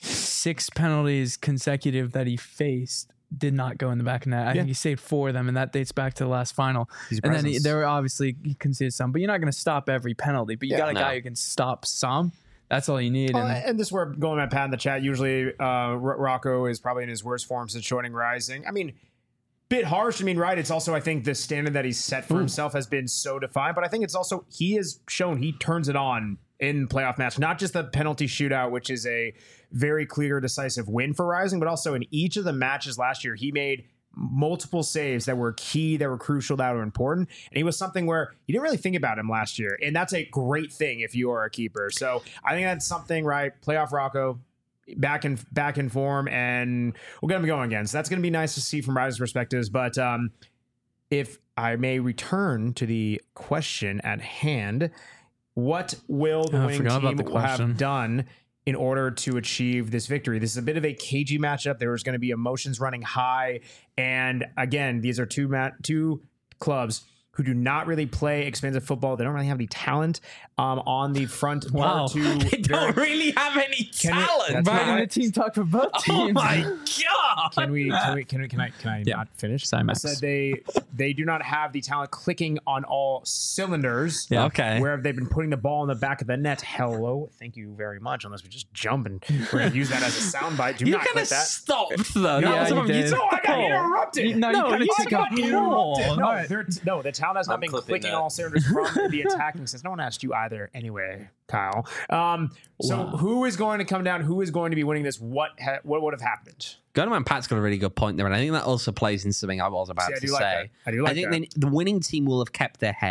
six penalties consecutive that he faced did not go in the back of net. I Yeah. think he saved four of them, and that dates back to the last final. He's And then he, presence. there were obviously he conceded some, but you're not going to stop every penalty. But you Yeah, got a no. guy who can stop some. That's all you need. Uh, and and this is where going at Pat in the chat. Usually, uh, R- Rocco is probably in his worst form since joining Rising. I mean, bit harsh. I mean, right? It's also, I think, the standard that he's set for himself has been so defined. But I think it's also he has shown he turns it on in playoff match. Not just the penalty shootout, which is a very clear, decisive win for Rising, but also in each of the matches last year, he made multiple saves that were key, that were crucial, that were important. And he was something where you didn't really think about him last year. And that's a great thing if you are a keeper. So I think that's something, right? Playoff Rocco back in back in form, and we're gonna be going again. So that's gonna be nice to see from Rising's perspectives. But um, if I may return to the question at hand, what will the Oh, I winning forgot about team the question. have done in order to achieve this victory? This is a bit of a cagey matchup. There was going to be emotions running high. And again, these are two mat- two clubs who do not really play expansive football. They don't really have any talent um, on the front Wow. part two. They don't very- really have any Can it- talent. that's Right not- in the team talk for both Oh teams. my god! Can we? Can we? Can we? Can I? Can I Yeah. not finish? Sorry, I Max. said they they do not have the talent clicking on all cylinders. Yeah. Okay. Where have they been putting the ball in the back of the net? Hello, thank you very much. Unless we just jump and we're gonna use that as a soundbite. Do You not kind click of that. stopped though. No, Yeah, That was you on- did. No, I got interrupted. You- no, No, you you gotta take got a interrupted. No, Alright. they're t- no, the talent has not I'm been clipping clicking that. on all cylinders from the attacking sense. No one asked you either, anyway, Kyle. Um, so Wow. who is going to come down? Who is going to be winning this? What ha- what would have happened? Gunnerman Pat's got a really good point there, and I think that also plays in something I was about See, I to do like say. that. I do like think that. they- the winning team will have kept their head.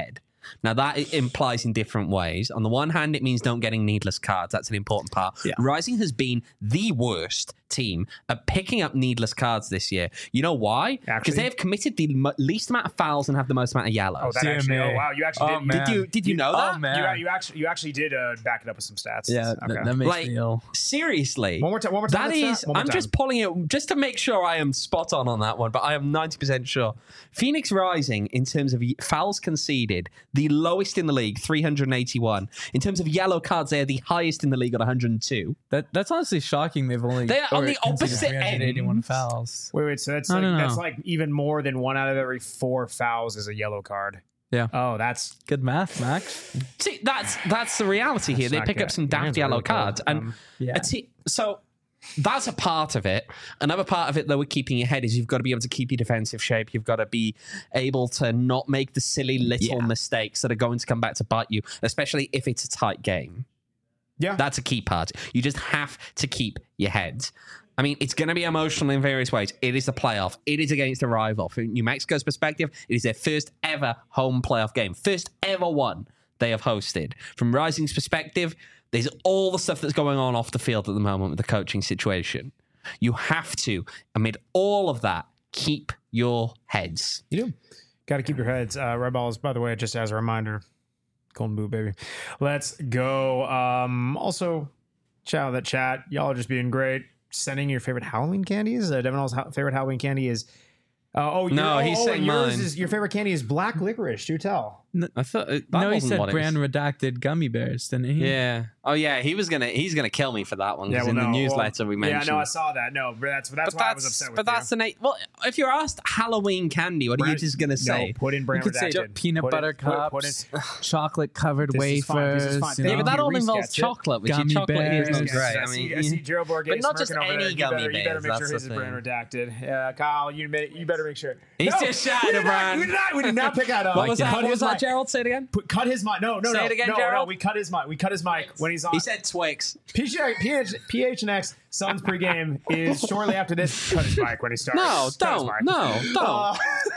Now, that i- implies in different ways. On the one hand, it means don't getting needless cards. That's an important part. Yeah. Rising has been the worst team at picking up needless cards this year. You know why? Because Actually? they have committed the mo- least amount of fouls and have the most amount of yellows. Oh, that Dear actually. me. Oh, wow. You actually Oh, did. man. did you did you know Oh, that? man. You, you actually you actually did uh, back it up with some stats. Yeah, Okay. that, that makes Like, me ill. seriously. One more time. One more time. That Let's is, start. One more I'm time. just pulling it just to make sure I am spot on on that one, but I am ninety percent sure. Phoenix Rising, in terms of fouls conceded, the lowest in the league, three hundred eighty-one. In terms of yellow cards, they are the highest in the league at one hundred two. That that's honestly shocking. They've only They are on or the conceded opposite three hundred eighty-one ends. fouls. Wait, wait. So that's I like don't that's know. like even more than one out of every four fouls is a yellow card. Yeah. Oh, that's Good math, Max. See, that's that's the reality here. That's They not pick good. up some Your daft hands are yellow really cold. cards, and Um, Yeah. a te- so that's a part of it. Another part of it, though, with keeping your head is you've got to be able to keep your defensive shape. You've got to be able to not make the silly little Yeah. mistakes that are going to come back to bite you, especially if it's a tight game. yeah. That's a key part. You just have to keep your heads. I mean, it's going to be emotional in various ways. It is a playoff. It is against a rival. From New Mexico's perspective, it is their first ever home playoff game. First ever one they have hosted. From Rising's perspective, there's all the stuff that's going on off the field at the moment with the coaching situation. You have to, amid all of that, keep your heads. You do. Got to keep your heads. Uh, Red Balls, by the way, just as a reminder, Golden Boot, baby. Let's go. Um, also, shout out that chat. Y'all are just being great. Sending your favorite Halloween candies. Uh, Devin All's ha- favorite Halloween candy is. Uh, oh, No, oh, he's oh, saying yours mine. is your favorite candy is black licorice. Do tell. I thought uh, that No, he wasn't said what it brand was. redacted gummy bears, didn't he? Yeah. Oh, yeah. He was gonna. He's gonna kill me for that one. Because in no, the newsletter well, we mentioned. Yeah, no, I saw that. No, but that's that's But why that's, I was upset with but that's you. the na- well. If you're asked Halloween candy, what are you Brand- just gonna say? No, put in brand You could say redacted. peanut Put in- butter put- put in- cups, chocolate covered This is fine, this is wafers. fine. you Thank Yeah, you. but know? that all Reese involves gets it. chocolate, which your Gummy chocolate here is not bears. great. I I see, mean, I see Gerald Borges but not just smirking over any there. You gummy better, you better bears, make that's sure the his is brand thing. redacted. Yeah, Kyle, you, may, you better make sure. He's No, just shouting we did a not- brand. We did not. We did not pick out. Uh, what was that? cut What his was that, mic. Gerald? Say it again. Put, cut his mic. No, no, Say no. it again, no, Gerald. No, we cut his mic. We cut his mic when he's on. He said Twix. P H, PH, P H N X Suns pregame is shortly after this. Cut his mic when he starts. No, Cut his don't. mic. No, don't. Uh,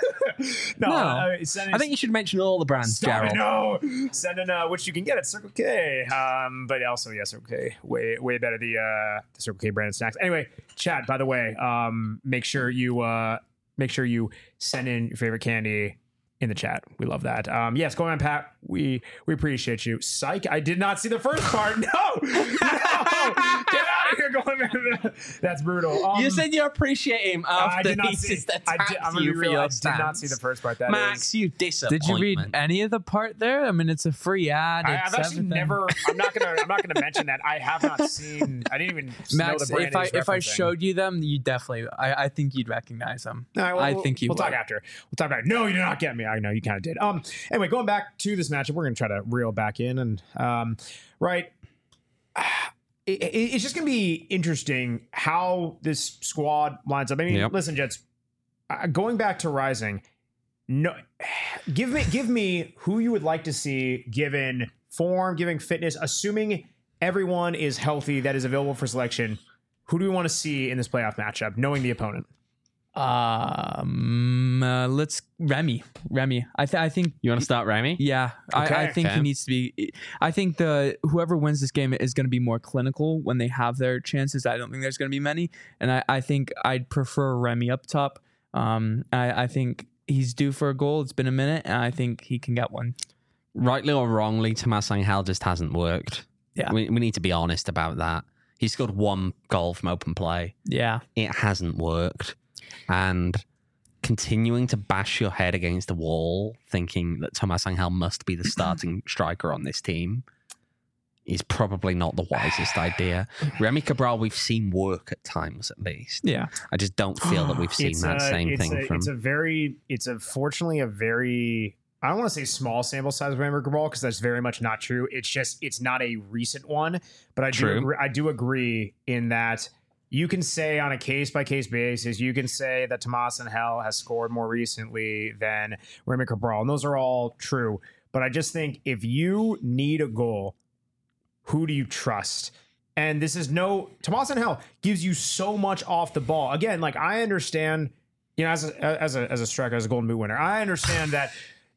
no, No. uh, sending, I think you should mention all the brands, Stop it, Gerald. no, sending uh, which you can get at Circle K. Um, but also, yeah, Circle K, way way better the uh, the Circle K branded snacks. Anyway, chat. By the way, um, make sure you uh, make sure you send in your favorite candy in the chat. We love that. Um, yes, going on, Pat. We we appreciate you. Psych. I did not see the first part. No, no, get out of here, going. That's brutal. Um, You said you appreciate him I after did not he see. just I attacked did, I'm gonna you be for real. your I did not stance. see the first part. That Max, is- you disappointment. Did you read any of the part there? I mean, it's a free ad. I, it's I've actually everything. never. I'm not gonna. I'm not gonna mention that. I have not seen. I didn't even know Max, the brand if I he's if I referencing. showed you them, you definitely. I, I think you'd recognize them. All right, well, I we'll- think you We'll would. talk after. We'll talk about. No, you did not get me. I know you kind of did. Um. Anyway, going back to this matchup, we're gonna try to reel back in and um. Right. It, it, it's just gonna be interesting how this squad lines up. I mean, Yep. listen, Jets. Uh, going back to Rising, no, give me give me who you would like to see given form, giving fitness, assuming everyone is healthy that is available for selection. Who do we want to see in this playoff matchup, knowing the opponent? Um, uh, let's Remy. Remy. I th- I think. You want to start, Remy? Yeah, I, I Okay. think Okay. he needs to be. I think the whoever wins this game is going to be more clinical when they have their chances. I don't think there's going to be many, and I, I think I'd prefer Remy up top. Um, I, I think he's due for a goal. It's been a minute, and I think he can get one. Rightly or wrongly, Tomas Angel just hasn't worked. Yeah. We, we need to be honest about that. He scored one goal from open play. Yeah, It hasn't worked. And continuing to bash your head against the wall, thinking that Tomas Angel must be the starting striker on this team, is probably not the wisest idea. Remy Cabral, we've seen work at times at least. yeah. I just don't feel that we've seen It's that a- same it's thing a, from. It's a very, it's unfortunately a very, I don't want to say small sample size of Remy Cabral because that's very much not true. It's just, it's not a recent one, but I do, True. agree, I do agree in that you can say on a case by case basis, you can say that Tomas Angel has scored more recently than Remy Cabral, and those are all true. But I just think if you need a goal, who do you trust? And this is no Tomas Angel gives you so much off the ball. Again, like I understand, you know, as a as a as a striker, as a Golden Boot winner, I understand that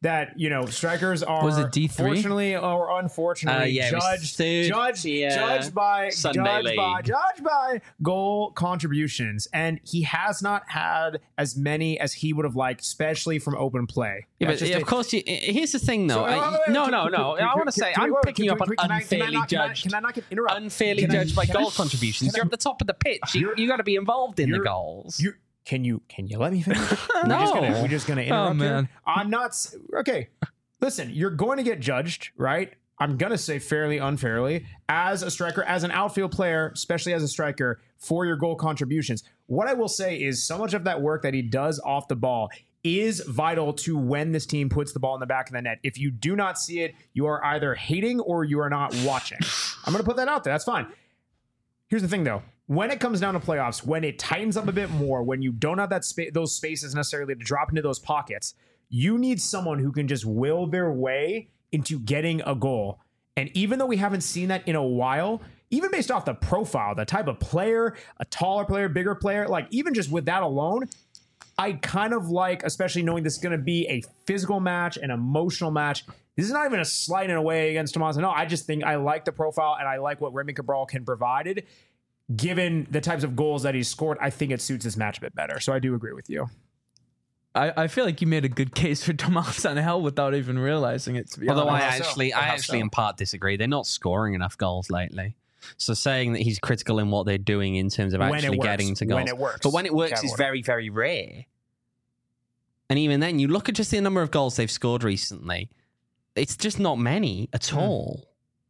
that you know strikers are Was it D three? fortunately or unfortunately Uh, yeah, it was judged third, judged yeah. judged by Sunday judged by League. judged by goal contributions, and he has not had as many as he would have liked, especially from open play. Yeah, That's but just of a- course, you, here's the thing, though. So, I- wait, wait, wait, no, can- no, can- no. can- I can- want to say can we- I'm wait, picking can up we- on can I- can I unfairly not- can I- judged. Can I not get interrupt? Unfairly Can I- judged by can I- goal contributions. can I- You're at the top of the pitch. You, you got to be involved in the You're- goals. You can you can you let me finish? No. We're just gonna, we're just gonna interrupt here? man. I'm not s- okay. Listen, you're going to get judged, right? I'm gonna say fairly unfairly as a striker, as an outfield player, especially as a striker, for your goal contributions. What I will say is so much of that work that he does off the ball is vital to when this team puts the ball in the back of the net. If you do not see it, you are either hating or you are not watching. I'm gonna put that out there. That's fine. Here's the thing, though. When it comes down to playoffs, when it tightens up a bit more, when you don't have that spa- those spaces necessarily to drop into those pockets, you need someone who can just will their way into getting a goal. And even though we haven't seen that in a while, even based off the profile, the type of player, a taller player, bigger player, like even just with that alone, I kind of like, especially knowing this is going to be a physical match, an emotional match. This is not even a slight in a way against Tomas. No, I just think I like the profile and I like what Remy Cabral can provide. Given the types of goals that he's scored, I think it suits this match a bit better. So I do agree with you. I, I feel like you made a good case for Tomas Angel without even realizing it, to be Although I honest. How so? actually, I How actually so? in part disagree. They're not scoring enough goals lately. So saying that he's critical in what they're doing in terms of When it actually works. getting to goals, When it works. but when it works, Capital is order. very, very rare. And even then, you look at just the number of goals they've scored recently. It's just not many at Hmm. all.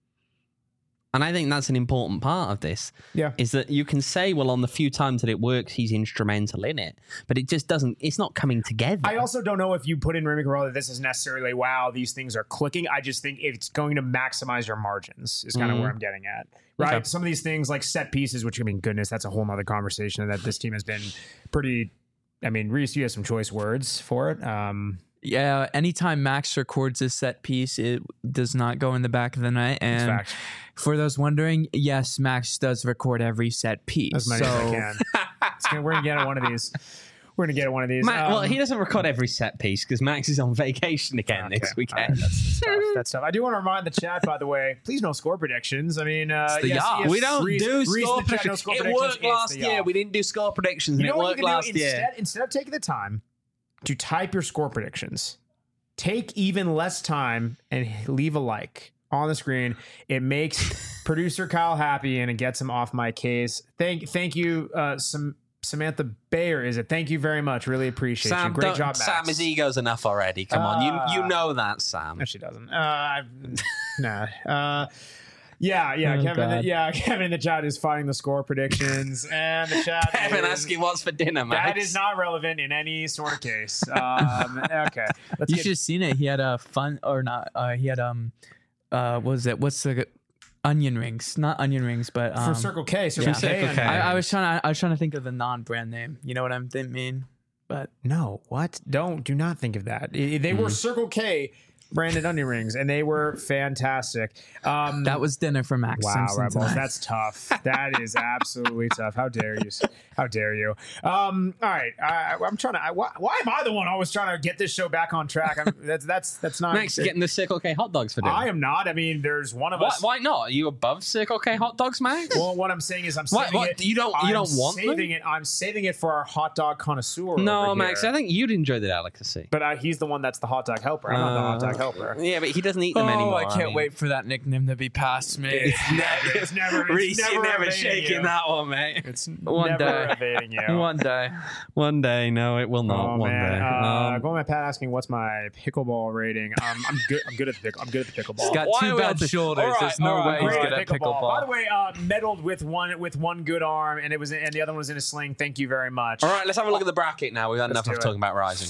And I think that's an important part of this. Yeah. Is that you can say, well, on the few times that it works, he's instrumental in it, but it just doesn't. It's not coming together. I also don't know if you put in Remy Cabral that this is necessarily, wow, these things are clicking. I just think it's going to maximize your margins is kind of Mhm. where I'm getting at. Right. Okay. Some of these things like set pieces, which I mean, goodness, that's a whole nother conversation that this team has been pretty. I mean, Reese, you have some choice words for it. Um, Yeah, anytime Max records a set piece, it does not go in the back of the net. it's And fact. for those wondering, yes, Max does record every set piece. As many so as I can. It's gonna- we're gonna get at one of these. We're gonna get at one of these. Ma- well, Um, he doesn't record every set piece because Max is on vacation again okay. next All weekend. right, that's, that's tough. That's tough. I do want to remind the chat, by the way, please no score predictions. I mean, uh, the yes, yard. yes, we don't Reese- do Reese in score the chat, no predictions. score It predictions. worked It's last the year. yard. We didn't do score predictions, You and know it what worked you can last do year. instead? Instead of taking the time to type your score predictions, take even less time and leave a like on the screen. It makes producer Kyle happy and it gets him off my case. Thank, thank you, uh, some. Samantha Bayer, is it? Thank you very much. Really appreciate Sam, you. Great don't- job, Max. Sam, his ego's enough already. Come on, Uh, you you know that, Sam. No, she doesn't. Uh, I've, nah. Uh, yeah, yeah. Oh, Kevin, God. yeah. Kevin in the chat is finding the score predictions, and the chat. Kevin is, asking what's for dinner, Max. that is not relevant in any sort of case. Um, okay, let's you get should have seen it. He had a fun or not. Uh, he had um, uh, what was it? What's the onion rings? Not onion rings, but um, for Circle K. Circle yeah. K. Circle and- K. I, I was trying. To, I was trying to think of the non-brand name. You know what I'm th- mean? But No, what? Don't do not think of that. I- They Mm-hmm. were Circle K branded onion rings, and they were fantastic. Um, that was dinner for Max Wow, Simpson Rebels, tonight. that's tough. That is absolutely tough. How dare you? How dare you? Um, all right, I, I'm trying to. I, why, why am I the one always trying to get this show back on track? I'm, that's that's that's not. Max getting the Circle K hot dogs for dinner. I am not. I mean, there's one of why, us. why not? Are you above Circle K hot dogs, Max? Well, what I'm saying is, I'm What- saving what? it. You don't- you I'm don't want them? saving it. I'm saving it for our hot dog connoisseur. no, over Max. here. I think you'd enjoy the delicacy. But uh, he's the one that's the hot dog helper. I'm not the hot dog helper. Yeah, but he doesn't eat them oh, anymore. I can't mean. wait for that nickname to be passed me. It's never. It's never. It's Reese, never you're never evading shaking you. that one, mate. It's One never day. evading you. One day. One day, no, it will not. Oh one man, day. uh, Um, going with Pat asking what's my pickleball rating. Um, I'm good. I'm good at the pick. I'm good at the pickleball. He's got Why two are we bad on to- shoulders. All right, There's no all right, way he's all good right. at pickleball. By the way, uh, medaled with one with one good arm, and it was and the other one was in a sling. Thank you very much. all right, let's have a look at the bracket now. We've had enough do of it. talking about Rising.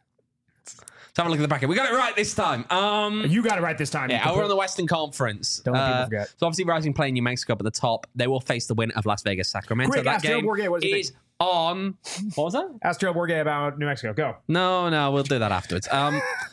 Let's have a look at the bracket. We got it right this time. Um, You got it right this time. You yeah, can we're put- on the Western Conference. Don't let people Uh, forget. So obviously, Rising playing New Mexico up at the top. They will face the winner of Las Vegas Sacramento. Quick, that ask Joe game Bourget, what does he is on. What was that? Ask Joe Bourget about New Mexico. Go. No, no, we'll do that afterwards. Um,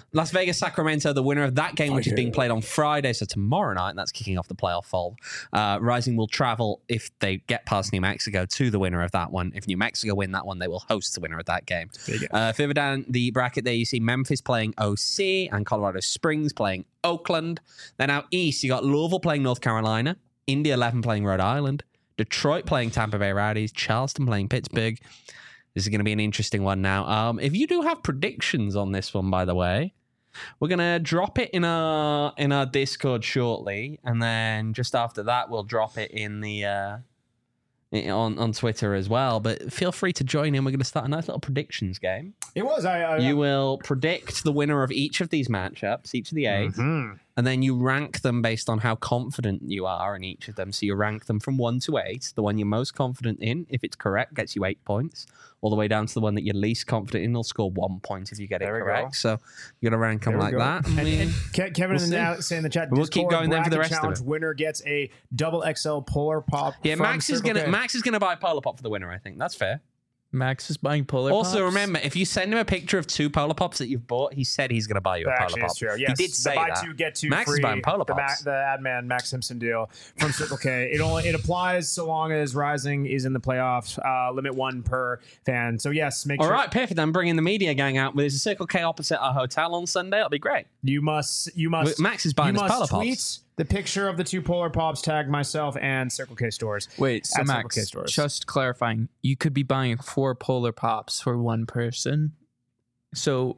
Las Vegas, Sacramento, the winner of that game, which is being played on Friday, so tomorrow night, and that's kicking off the playoff fold. Uh, Rising will travel, if they get past New Mexico, to the winner of that one. If New Mexico win that one, they will host the winner of that game. Uh, further down the bracket there, you see Memphis playing O C and Colorado Springs playing Oakland. Then out east, you got Louisville playing North Carolina, Indy eleven playing Rhode Island, Detroit playing Tampa Bay Rowdies, Charleston playing Pittsburgh. This is going to be an interesting one now. Um, if you do have predictions on this one, by the way, we're going to drop it in our in our Discord shortly, and then just after that, we'll drop it in the uh, on on Twitter as well. But feel free to join in. We're going to start a nice little predictions game. It was. I, I You will predict the winner of each of these matchups, each of the eight, mm-hmm. and then you rank them based on how confident you are in each of them. So you rank them from one to eight. The one you're most confident in, if it's correct, gets you eight points. All the way down to the one that you're least confident in, will score one point if you get There it we correct. go. So you're going to rank them There we like go. that. I And, mean, and Ke- Kevin we'll in see. the, saying in the chat. We'll keep Discord going then for the bracket rest of challenge it. Winner gets a double X L Polar Pop. yeah, from Max is Circle gonna K. Max is gonna buy a Polar Pop for the winner. I think that's fair. Max is buying Polar Also, Pops. remember, if you send him a picture of two Polar Pops that you've bought, he said he's going to buy you a That Polar actually Pop. is true. Yes, He did say the buy that. two get two Max free. is buying Polar the, Pops. the ad man Max Simpson deal from Circle K. It only it applies so long as Rising is in the playoffs. Uh, limit one per fan. So yes, make All sure right, perfect. I'm bringing the media gang out. There's a Circle K opposite our hotel on Sunday. It'll be great. you must you must Max is buying you his must Polar tweet Pops. the picture of the two Polar Pops. Tag myself and Circle K stores. Wait, so At Circle Max, K stores. just clarifying, you could be buying four Polar Pops for one person. So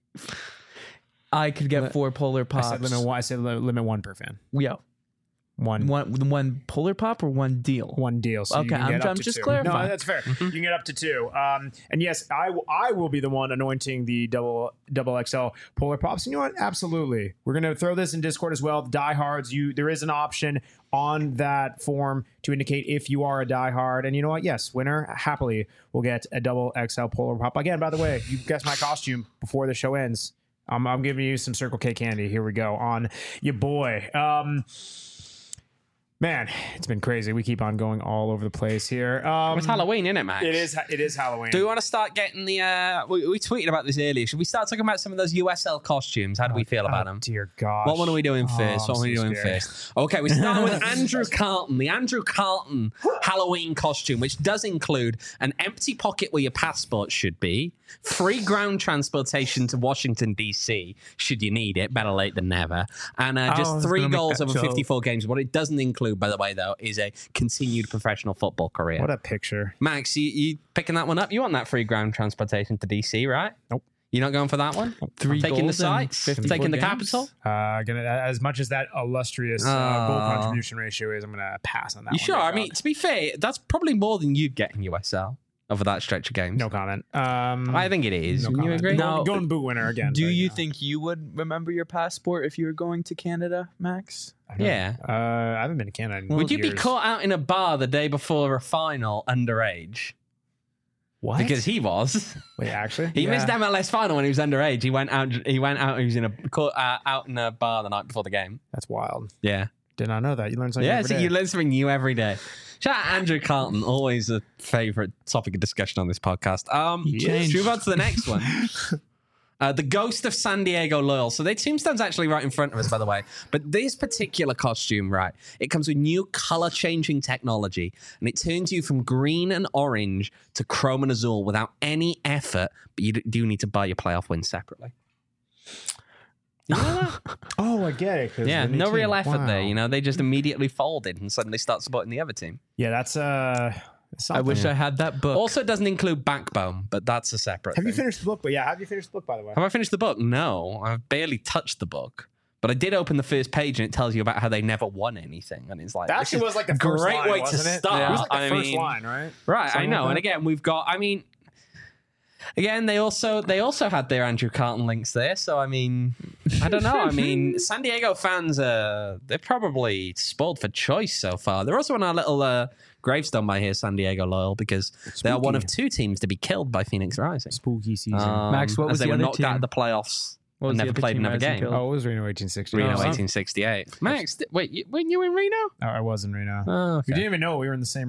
I could get four Polar I Pops. said limit one. I said li- limit one per fan. Yeah. One. One one Polar Pop or one deal? One deal. So Okay, you can I'm- get up I'm to just two. clarifying. No, that's fair. You can get up to two. Um, and yes, I, w- I will be the one anointing the double double X L Polar Pops. And you know what? Absolutely. We're gonna throw this in Discord as well. Diehards, you there is an option on that form to indicate if you are a diehard. And you know what? Yes, winner happily will get a double X L Polar Pop. Again, by the way, you guessed my costume before the show ends. Um, I'm giving you some Circle K candy. Here we go on your boy. Um, Man, it's been crazy. We keep on going all over the place here. Um, It's Halloween, isn't it, Max? It is. It is Halloween. Do we want to start getting the... Uh, we, we tweeted about this earlier. Should we start talking about some of those U S L costumes? How do we feel about Oh, them? dear gosh. What one are we doing Oh, first? I'm what are we so doing scared. first? Okay, we start with Andrew Carlton, the Andrew Carlton Halloween costume, which does include an empty pocket where your passport should be, free ground transportation to Washington, D C, should you need it, better late than never, and uh, I just was three gonna make goals that over joke. fifty-four games. What it doesn't include, by the way, though, is a continued professional football career. What a picture. Max, you, you picking that one up? You want that free ground transportation to D C, right? Nope. You're not going for that one? Three taking the goals in sites, fifty-four taking the games? capital. Uh, gonna as much as that illustrious uh, goal Oh. contribution ratio is, I'm gonna pass on that. You one, sure? big I dog. mean, to be fair, that's probably more than you'd get in U S L over that stretch of games. no comment. Um, I think it is. no Wouldn't you comment. agree? Golden, No. golden boot winner again. Do but, you know. think you would remember your passport if you were going to Canada, Max? I don't know. Yeah. Uh, I haven't been to Canada. In Would you be years. caught out in a bar the day before a final underage? What? Because he was. Wait, actually, He Yeah. missed M L S final when he was underage. He went out. He went out. He was in a caught uh, out in a bar the night before the game. That's wild. Yeah. Did not know that. You learn something. Yeah, every so day. you learn something new every day. Shout out Andrew Carlton, always a favorite topic of discussion on this podcast. Um, He should we changed. move on to the next one? Uh, the Ghost of San Diego Loyal. So their tombstone's actually right in front of us, by the way. But this particular costume, right, it comes with new color-changing technology, and it turns you from green and orange to chrome and azul without any effort, but you d- do need to buy your playoff win separately. You know that? Oh, I get it. 'cause Yeah, the new no team. real effort there. Wow. You know, they just immediately folded and suddenly start supporting the other team. Yeah, that's uh. I something. wish I had that book. Also, it doesn't include Backbone, but that's a separate Have you thing. finished the book? But yeah, have you finished the book? By the way. Have I finished the book? No, I've barely touched the book. But I did open the first page and it tells you about how they never won anything. And it's like, That this actually is was like the a first great line, way to wasn't it? start. It was like the I first mean, line, right? Right, I Something know. like And that. again, we've got, I mean, again, they also they also had their Andrew Carlton links there. So, I mean, I don't know. I mean, San Diego fans, uh, they're probably spoiled for choice so far. They're also on our little uh, gravestone by here, San Diego Loyal, because they are one of two teams to be killed by Phoenix Rising. Spooky season. Um, Max, what as was they the were other knocked out team? of the playoffs What and was the never other played team another Rising game. killed? oh, it was Reno eighteen sixty. Reno Oh, eighteen sixty-eight. Max, th- wait, you, weren't you in Reno? oh, I was in Reno. Oh, We okay. didn't even know we were in the same room.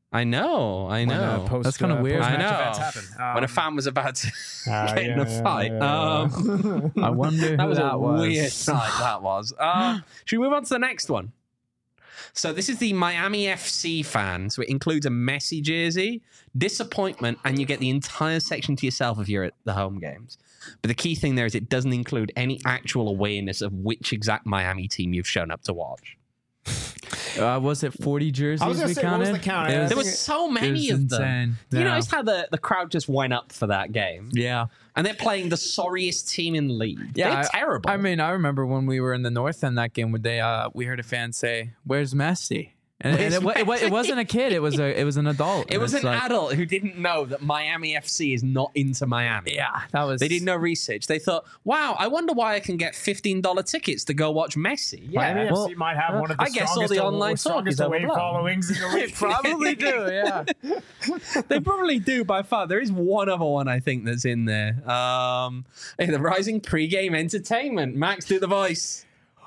I know, I When, uh, know. post- That's kinda uh, weird. post-match I know. events happen. when a Um, fan was about to uh, get in yeah, a yeah, fight. yeah, Um, yeah. I wonder who that was that a was. weird night. That was. Uh, should we move on to the next one? So this is the Miami F C fan. So it includes a Messi jersey, disappointment, and you get the entire section to yourself if you're at the home games. But the key thing there is it doesn't include any actual awareness of which exact Miami team you've shown up to watch. Uh, was it forty jerseys I was gonna we say, what counted? was the count? It I was, There think were it- so it many was of them. insane. You Yeah. noticed how the, the crowd just went up for that game? Yeah. And they're playing the sorriest team in the league. Yeah, They're I- terrible. I mean, I remember when we were in the North End that game, where they uh, we heard a fan say, "Where's Messi?" And, and Where's it, wa- it, wa- it Messi? wasn't a kid; it was a it was an adult. it And was it's an like, adult who didn't know that Miami F C is not into Miami. Yeah, that was. They did no research. They thought, wow, I wonder why I can get fifteen dollars tickets to go watch Messi. Yeah. Miami well, F C might have one of the I guess all strongest, the aw- online talk strongest is away overblown. followings in the They league. probably do. Yeah. They probably do by far. There is one other one I think that's in there. Um, hey, the Rising Pre-Game Entertainment. Max, do the voice.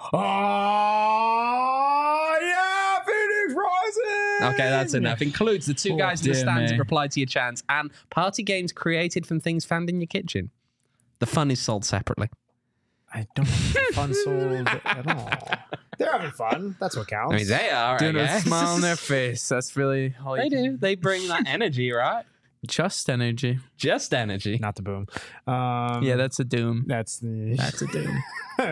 Oh, yeah, Phoenix Rising. Okay, that's enough. Includes the two Oh, guys in the dear stands me. that replied to your chants and party games created from things found in your kitchen. The fun is sold separately. I don't have fun sold at all. They're having fun. That's what counts. I mean, they are, I Doing a guess. smile on their face. That's really all They you can- do. They bring that energy, right? Just energy. Just energy. Not the boom. Um, Yeah, that's a doom. that's the That's a doom.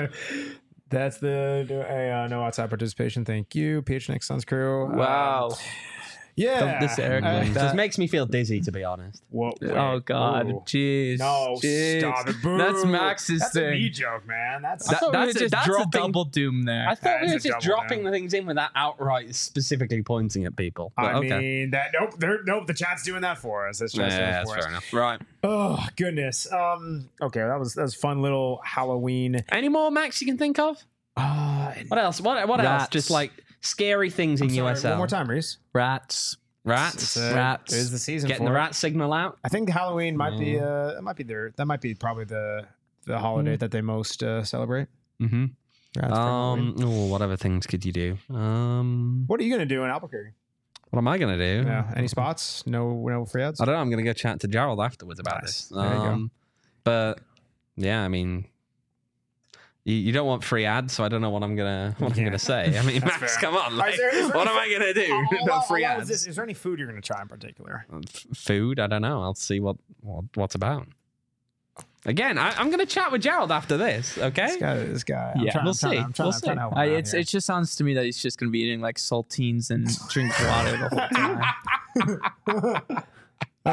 that's the hey, uh, no outside participation. Thank you, P H N X Suns crew. Wow. Um, yeah, This Eric Uh, like It that. just makes me feel dizzy, to be honest. Whoa, wait. Oh God, Ooh. jeez. No, jeez. stop it. Boo. That's Max's That's a thing. me joke, man. That's I That- thought we that's were a, just that's dropping- a double doom there. I thought we That were is a just double dropping down. the things in without outright specifically pointing at people. But I okay. mean that. Nope. They're, nope. The chat's doing that for us. That's just Yeah, for that's us. fair enough. Right. Oh goodness. Um. Okay, that was that was fun little Halloween. Any more, Max, you can think of? Uh, What else? What, what else? Rats. Just like scary things in I'm sorry, U S L. One more time, Reese. Rats. Rats. It's, uh, Rats. It is the season. Getting for the it. rat signal out. I think Halloween might be. Uh, that might be their. That might be probably the the holiday that they most uh, celebrate. Mm-hmm. Rats for Halloween. Um, oh, what other things could you do? Um, What are you gonna do in Albuquerque? what am I gonna do? Yeah. Any spots? No. No free ads. I don't know. I'm gonna go chat to Gerald afterwards about Nice. this. There you go. Um, but yeah, I mean, you, you don't want free ads, so I don't know what I'm gonna what I'm Yeah. gonna say. I mean, That's Max, fair. come on, All right, like, is there- is there what any- am I gonna do? How- no how- free how long ads. Is, this, is there any food you're gonna try in particular? F- Food? I don't know. I'll see what, what what's about. Again, I, I'm going to chat with Gerald after this. Okay. This guy. This guy. I'm Yeah, trying, we'll I'm trying, see. I'm trying, We'll I'm trying to help him I, out it's here. it just sounds to me that he's just gonna be eating like saltines and drink water the whole time. Uh,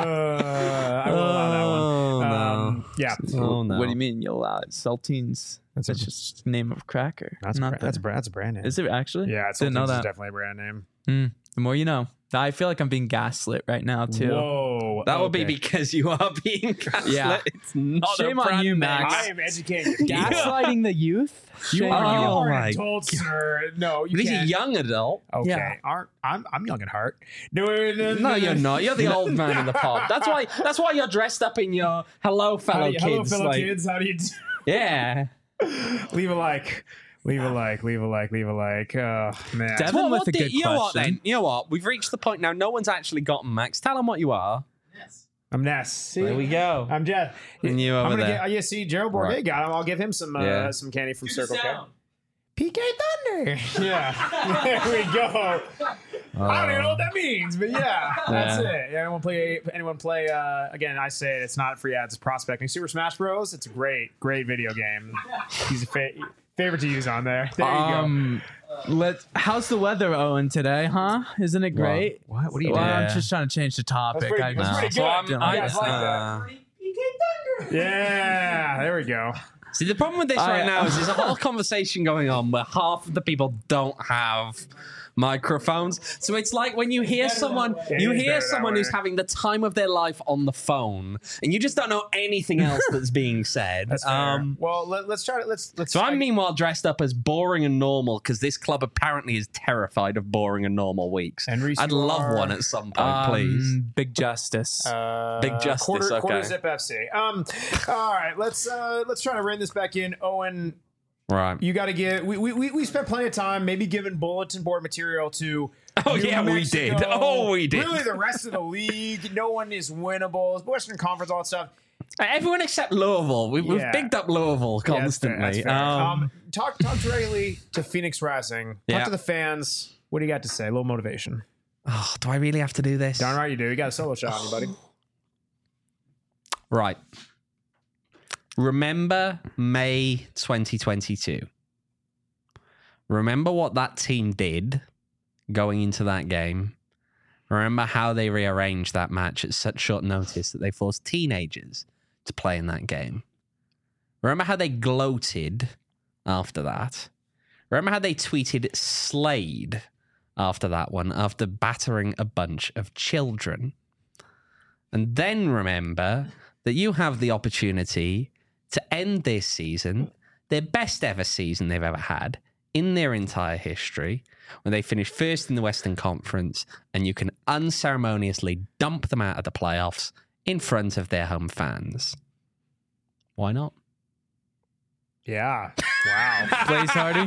I will allow that one. Oh, Um, yeah. Oh, no. What do you mean you'll allow it? Saltines. That's That's, a- just name of cracker. That's Not bra- the- that's bra- that's a brand name. Is it actually? Yeah, it's Didn't know Saltines is that. definitely a brand name. Mm, the more you know. I feel like I'm being gaslit right now too. Whoa, That would be okay. because you are being gaslit. Yeah. It's not Shame a on brand you, name. Max. I am educating you. Gaslighting the youth. You Shame are, on you you. Oh are my an adult, sir. No, you But he's a can't. young adult. Okay, Yeah. aren't I'm I'm young at heart. No, no, no, No, you're not. You're the old man in the pod. That's why. That's why you're dressed up in your hello, How fellow do you- hello, kids. fellow like- kids. How do you do? Yeah. Leave a like. Leave a like. Leave a like. Leave a like. Oh man. Devin Well, with what a did- good you know what question. then? You know what? We've reached the point now. No one's actually gotten Max. Tell him what you are. I'm Ness. See? There we go. I'm Jeff. And you I'm over gonna there. get. Oh, yeah, see, Gerald Bourget Right. got him. I'll give him some uh, Yeah. some candy from Circle K. P K Thunder. Yeah. There we go. I don't even know what that means, but yeah, that's Yeah. it. Yeah, anyone play? Anyone play? Uh, again, I say it, it's not free ads. It's prospecting. Super Smash Bros. It's a great, great video game. He's a fa- favorite to use on there. There you Um, let how's the weather, Owen, today? Huh? Isn't it great? go. What? What are you Well, doing? I'm Yeah. just trying to change the topic. pretty- I that's just- pretty So good. I'm, Don't I, like that. uh, Yeah, there we go. See, the problem with this I- right now is there's a whole conversation going on where half of the people don't have microphones. So it's like when you hear someone, It you is hear better that someone who's way. having the time of their life on the phone, and you just don't know anything else that's being said. That's fair. Um, well, let, let's try it. Let's let's. so try- I'm meanwhile dressed up as boring and normal because this club apparently is terrified of boring and normal weeks. And Reese, I'd you love are- one at some point, Um, please. Big justice. Uh, Big justice, Quarter, quarter okay. zip F C. Um, all right, let's uh, let's try to rein this back in. Owen, Right. You got to get. We, we we spent plenty of time, maybe giving bulletin board material to. Oh, New yeah, we Mexico. did. Oh, we did. Really, the rest of the league, no one is winnable. Western Conference, all that stuff. Everyone except Louisville. We, We've Yeah. bigged up Louisville Yeah, that's fair, constantly. that's fair. Um, Um, talk talk directly to Phoenix Rising. Talk Yeah. to the fans. What do you got to say? A little motivation. oh, do I really have to do this? Darn right you do. You got a solo shot on you, buddy. Right. Remember May twenty twenty-two. Remember what that team did going into that game. Remember how they rearranged that match at such short notice that they forced teenagers to play in that game. Remember how they gloated after that. Remember how they tweeted Slade after that one, after battering a bunch of children. And then remember that you have the opportunity to end this season, their best ever season they've ever had in their entire history, when they finish first in the Western Conference, and you can unceremoniously dump them out of the playoffs in front of their home fans. Why not? Yeah. Wow. Blaze Hardy.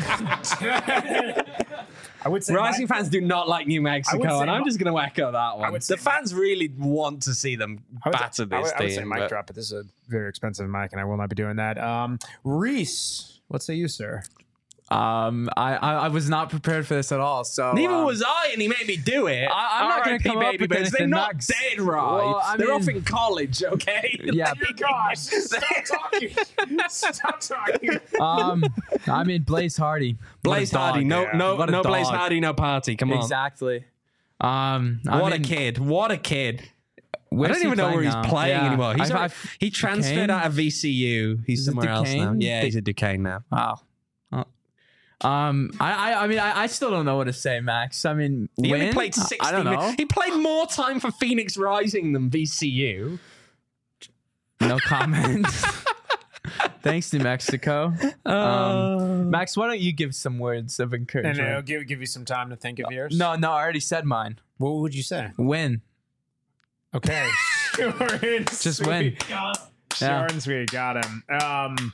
I would say Rising my- fans do not like New I would Mexico, say and I'm mi- just going to echo that one. would say The fans really want to see them I would, batter I this would, I would say team. mic but- drop, but this is a very expensive mic, and I will not be doing that. Um, Reese, what say you, sir? Um, I, I I was not prepared for this at all. So Neither um, was I, and he made me do it. I- I'm not gonna R I P come up baby with birds. They're anything, not Max. dead, right? Well, I They're mean- off in college, okay? Yeah. Dear gosh, stop talking. Stop talking. Um, I mean Blaze Hardy. What a Blaze dog. Hardy, no, yeah. no, What a no Blaze dog. Hardy, no party. Come on. Exactly. Um, I What mean, a kid! What a kid! I where's don't he even know where he's now? playing Yeah. anymore. He's I've- already- I've- he transferred Duquesne? out of V C U. He's Is it somewhere else now. Duquesne? Yeah, Duc- he's at Duquesne now. Wow. Uh, Um, I, I, I mean, I, I still don't know what to say, Max. I mean, He win? only played sixty I don't know. minutes. He played more time for Phoenix Rising than V C U. No comment. Thanks, New Mexico. Um, Max, why don't you give some words of And encouragement? it'll give, give you some time to think of yours. No, no, I already said mine. What would you say? Win. Okay. Short and Just sweet. win. Short Yeah. and sweet. Got him. Um,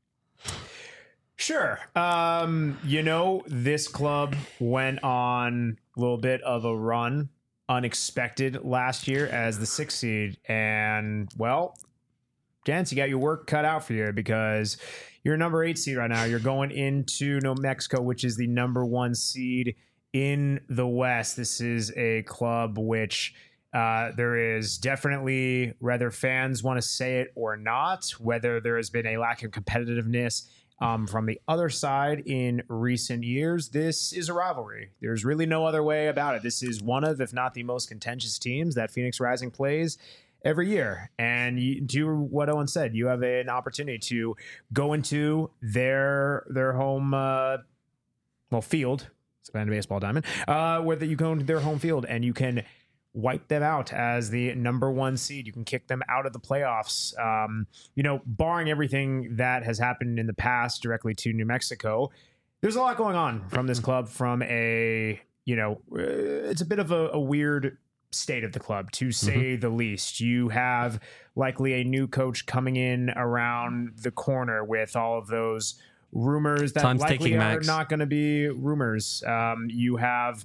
sure. Um, you know, this club went on a little bit of a run, unexpected last year as the sixth seed. And, well, gents, you got your work cut out for you because you're a number eight seed right now. You're going into New Mexico, which is the number one seed in the West. This is a club which uh, there is definitely, whether fans want to say it or not, whether there has been a lack of competitiveness um, from the other side in recent years, this is a rivalry. There's really no other way about it. This is one of, if not the most contentious teams that Phoenix Rising plays every year. And you do what Owen said, you have an opportunity to go into their their home uh, well field. It's a baseball diamond, uh, where you go into their home field and you can wipe them out as the number one seed. You can kick them out of the playoffs. Um, you know, barring everything that has happened in the past directly to New Mexico, there's a lot going on from this club. From a, you know, uh, it's a bit of a, a weird state of the club, to say the least. You have likely a new coach coming in around the corner with all of those rumors that Time's likely ticking, are Max. not going to be rumors. Um, you have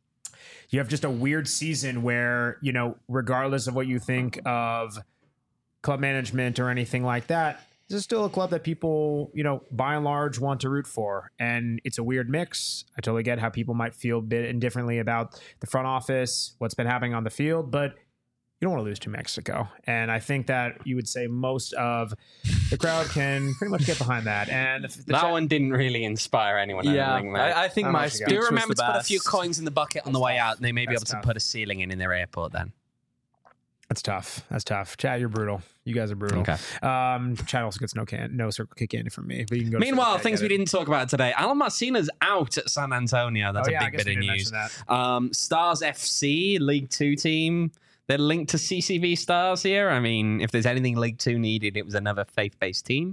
you have just a weird season where, you know, regardless of what you think of club management or anything like that, this is still a club that people, you know, by and large want to root for. And it's a weird mix. I totally get how people might feel a bit indifferently about the front office, what's been happening on the field, but you don't want to lose to Mexico. And I think that you would say most of the crowd can pretty much get behind that. And if the That chat- one didn't really inspire anyone. I Yeah, don't think, mate. I, I think How my much you got? speech Do was remember the to put a few best. coins in the bucket on the way out, and they may be That's able to tough. put a ceiling in in their airport then. That's tough. That's tough. Chad, you're brutal. You guys are brutal. Okay. Um, Chad also gets no can, no circle kick candy from me. But you can go to Meanwhile, Circle K, things get we it. didn't talk about today. Alan Marcina's out at San Antonio. That's Oh, a yeah, I big guess bit we of didn't news. mention that. Um, Stars F C, League Two team. They're linked to C C V Stars here. I mean, if there's anything League Two needed, it was another faith-based team.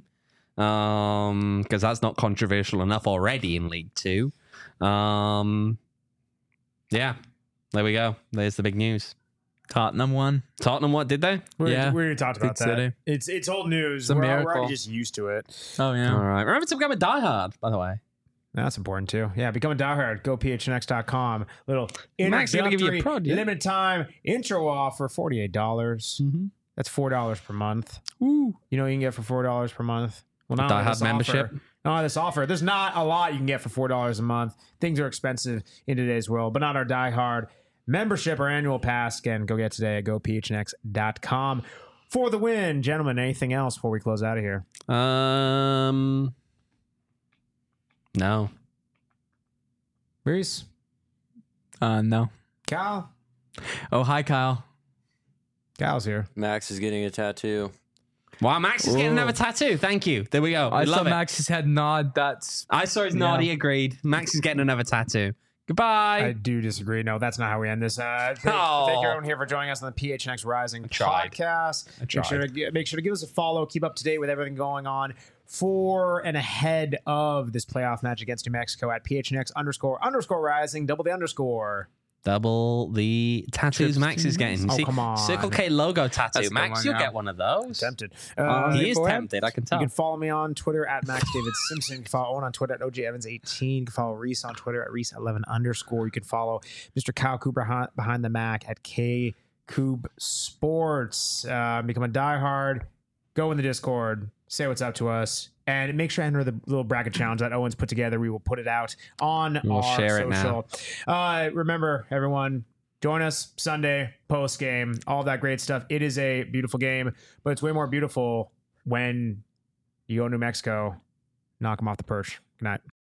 Um, because that's not controversial enough already in League Two. Um, yeah, there we go. There's the big news. Tottenham won. Tottenham, what did they? We, Yeah. we already talked about Big that. city. It's it's old news. It's a we're, we're miracle. already just used to it. Oh yeah. All right. Remember to become a diehard, by the way. That's important too. Yeah, become a diehard. Go P H N X dot com. Little Max, you gonna give you a introductory prod, yeah? limited time intro offer, forty-eight dollars. Mm-hmm. That's four dollars per month. Woo. You know what you can get for four dollars per month? Well, not only Diehard this membership. Offer, not only this offer. There's not a lot you can get for four dollars a month. Things are expensive in today's world, but not our diehard membership or annual pass. Again, go get today at go P H N X dot com for the win. Gentlemen, anything else before we close out of here? Um, no. Reese? Uh, no. Kyle? Oh, hi, Kyle. Kyle's here. Max is getting a tattoo. Wow, Max is getting Ooh. another tattoo. Thank you. There we go. I We saw love it. Max's head nod. That's I saw his Yeah. nod. He agreed. Max is getting another tattoo. Goodbye. I do disagree. No, that's not how we end this. Uh, thank, Oh. thank everyone here for joining us on the P H N X Rising tried. podcast. I Make tried. sure, to, make sure to give us a follow. Keep up to date with everything going on for and ahead of this playoff match against New Mexico at P H N X underscore underscore Rising. Double the underscore. Double the tattoos Trips Max to is getting. You Oh, see, come on. Circle K logo tattoo. That's the Max, one, you'll yeah. get one of those. Tempted. Uh, Uh, he is go ahead. tempted. I can You tell. can follow me on Twitter at Max David Simpson. You can follow Owen on Twitter at O J Evans eighteen. You can follow Reese on Twitter at Reese eleven underscore. You can follow Mister Kyle Cooper behind, behind the Mac at K Coob Sports. Uh, become a diehard. Go in the Discord. Say what's up to us. And make sure to enter the little bracket challenge that Owen's put together. We will put it out on We'll our share it social. Uh, remember, everyone, join us Sunday post game. All that great stuff. It is a beautiful game, but it's way more beautiful when you go to New Mexico, knock them off the perch. Good night.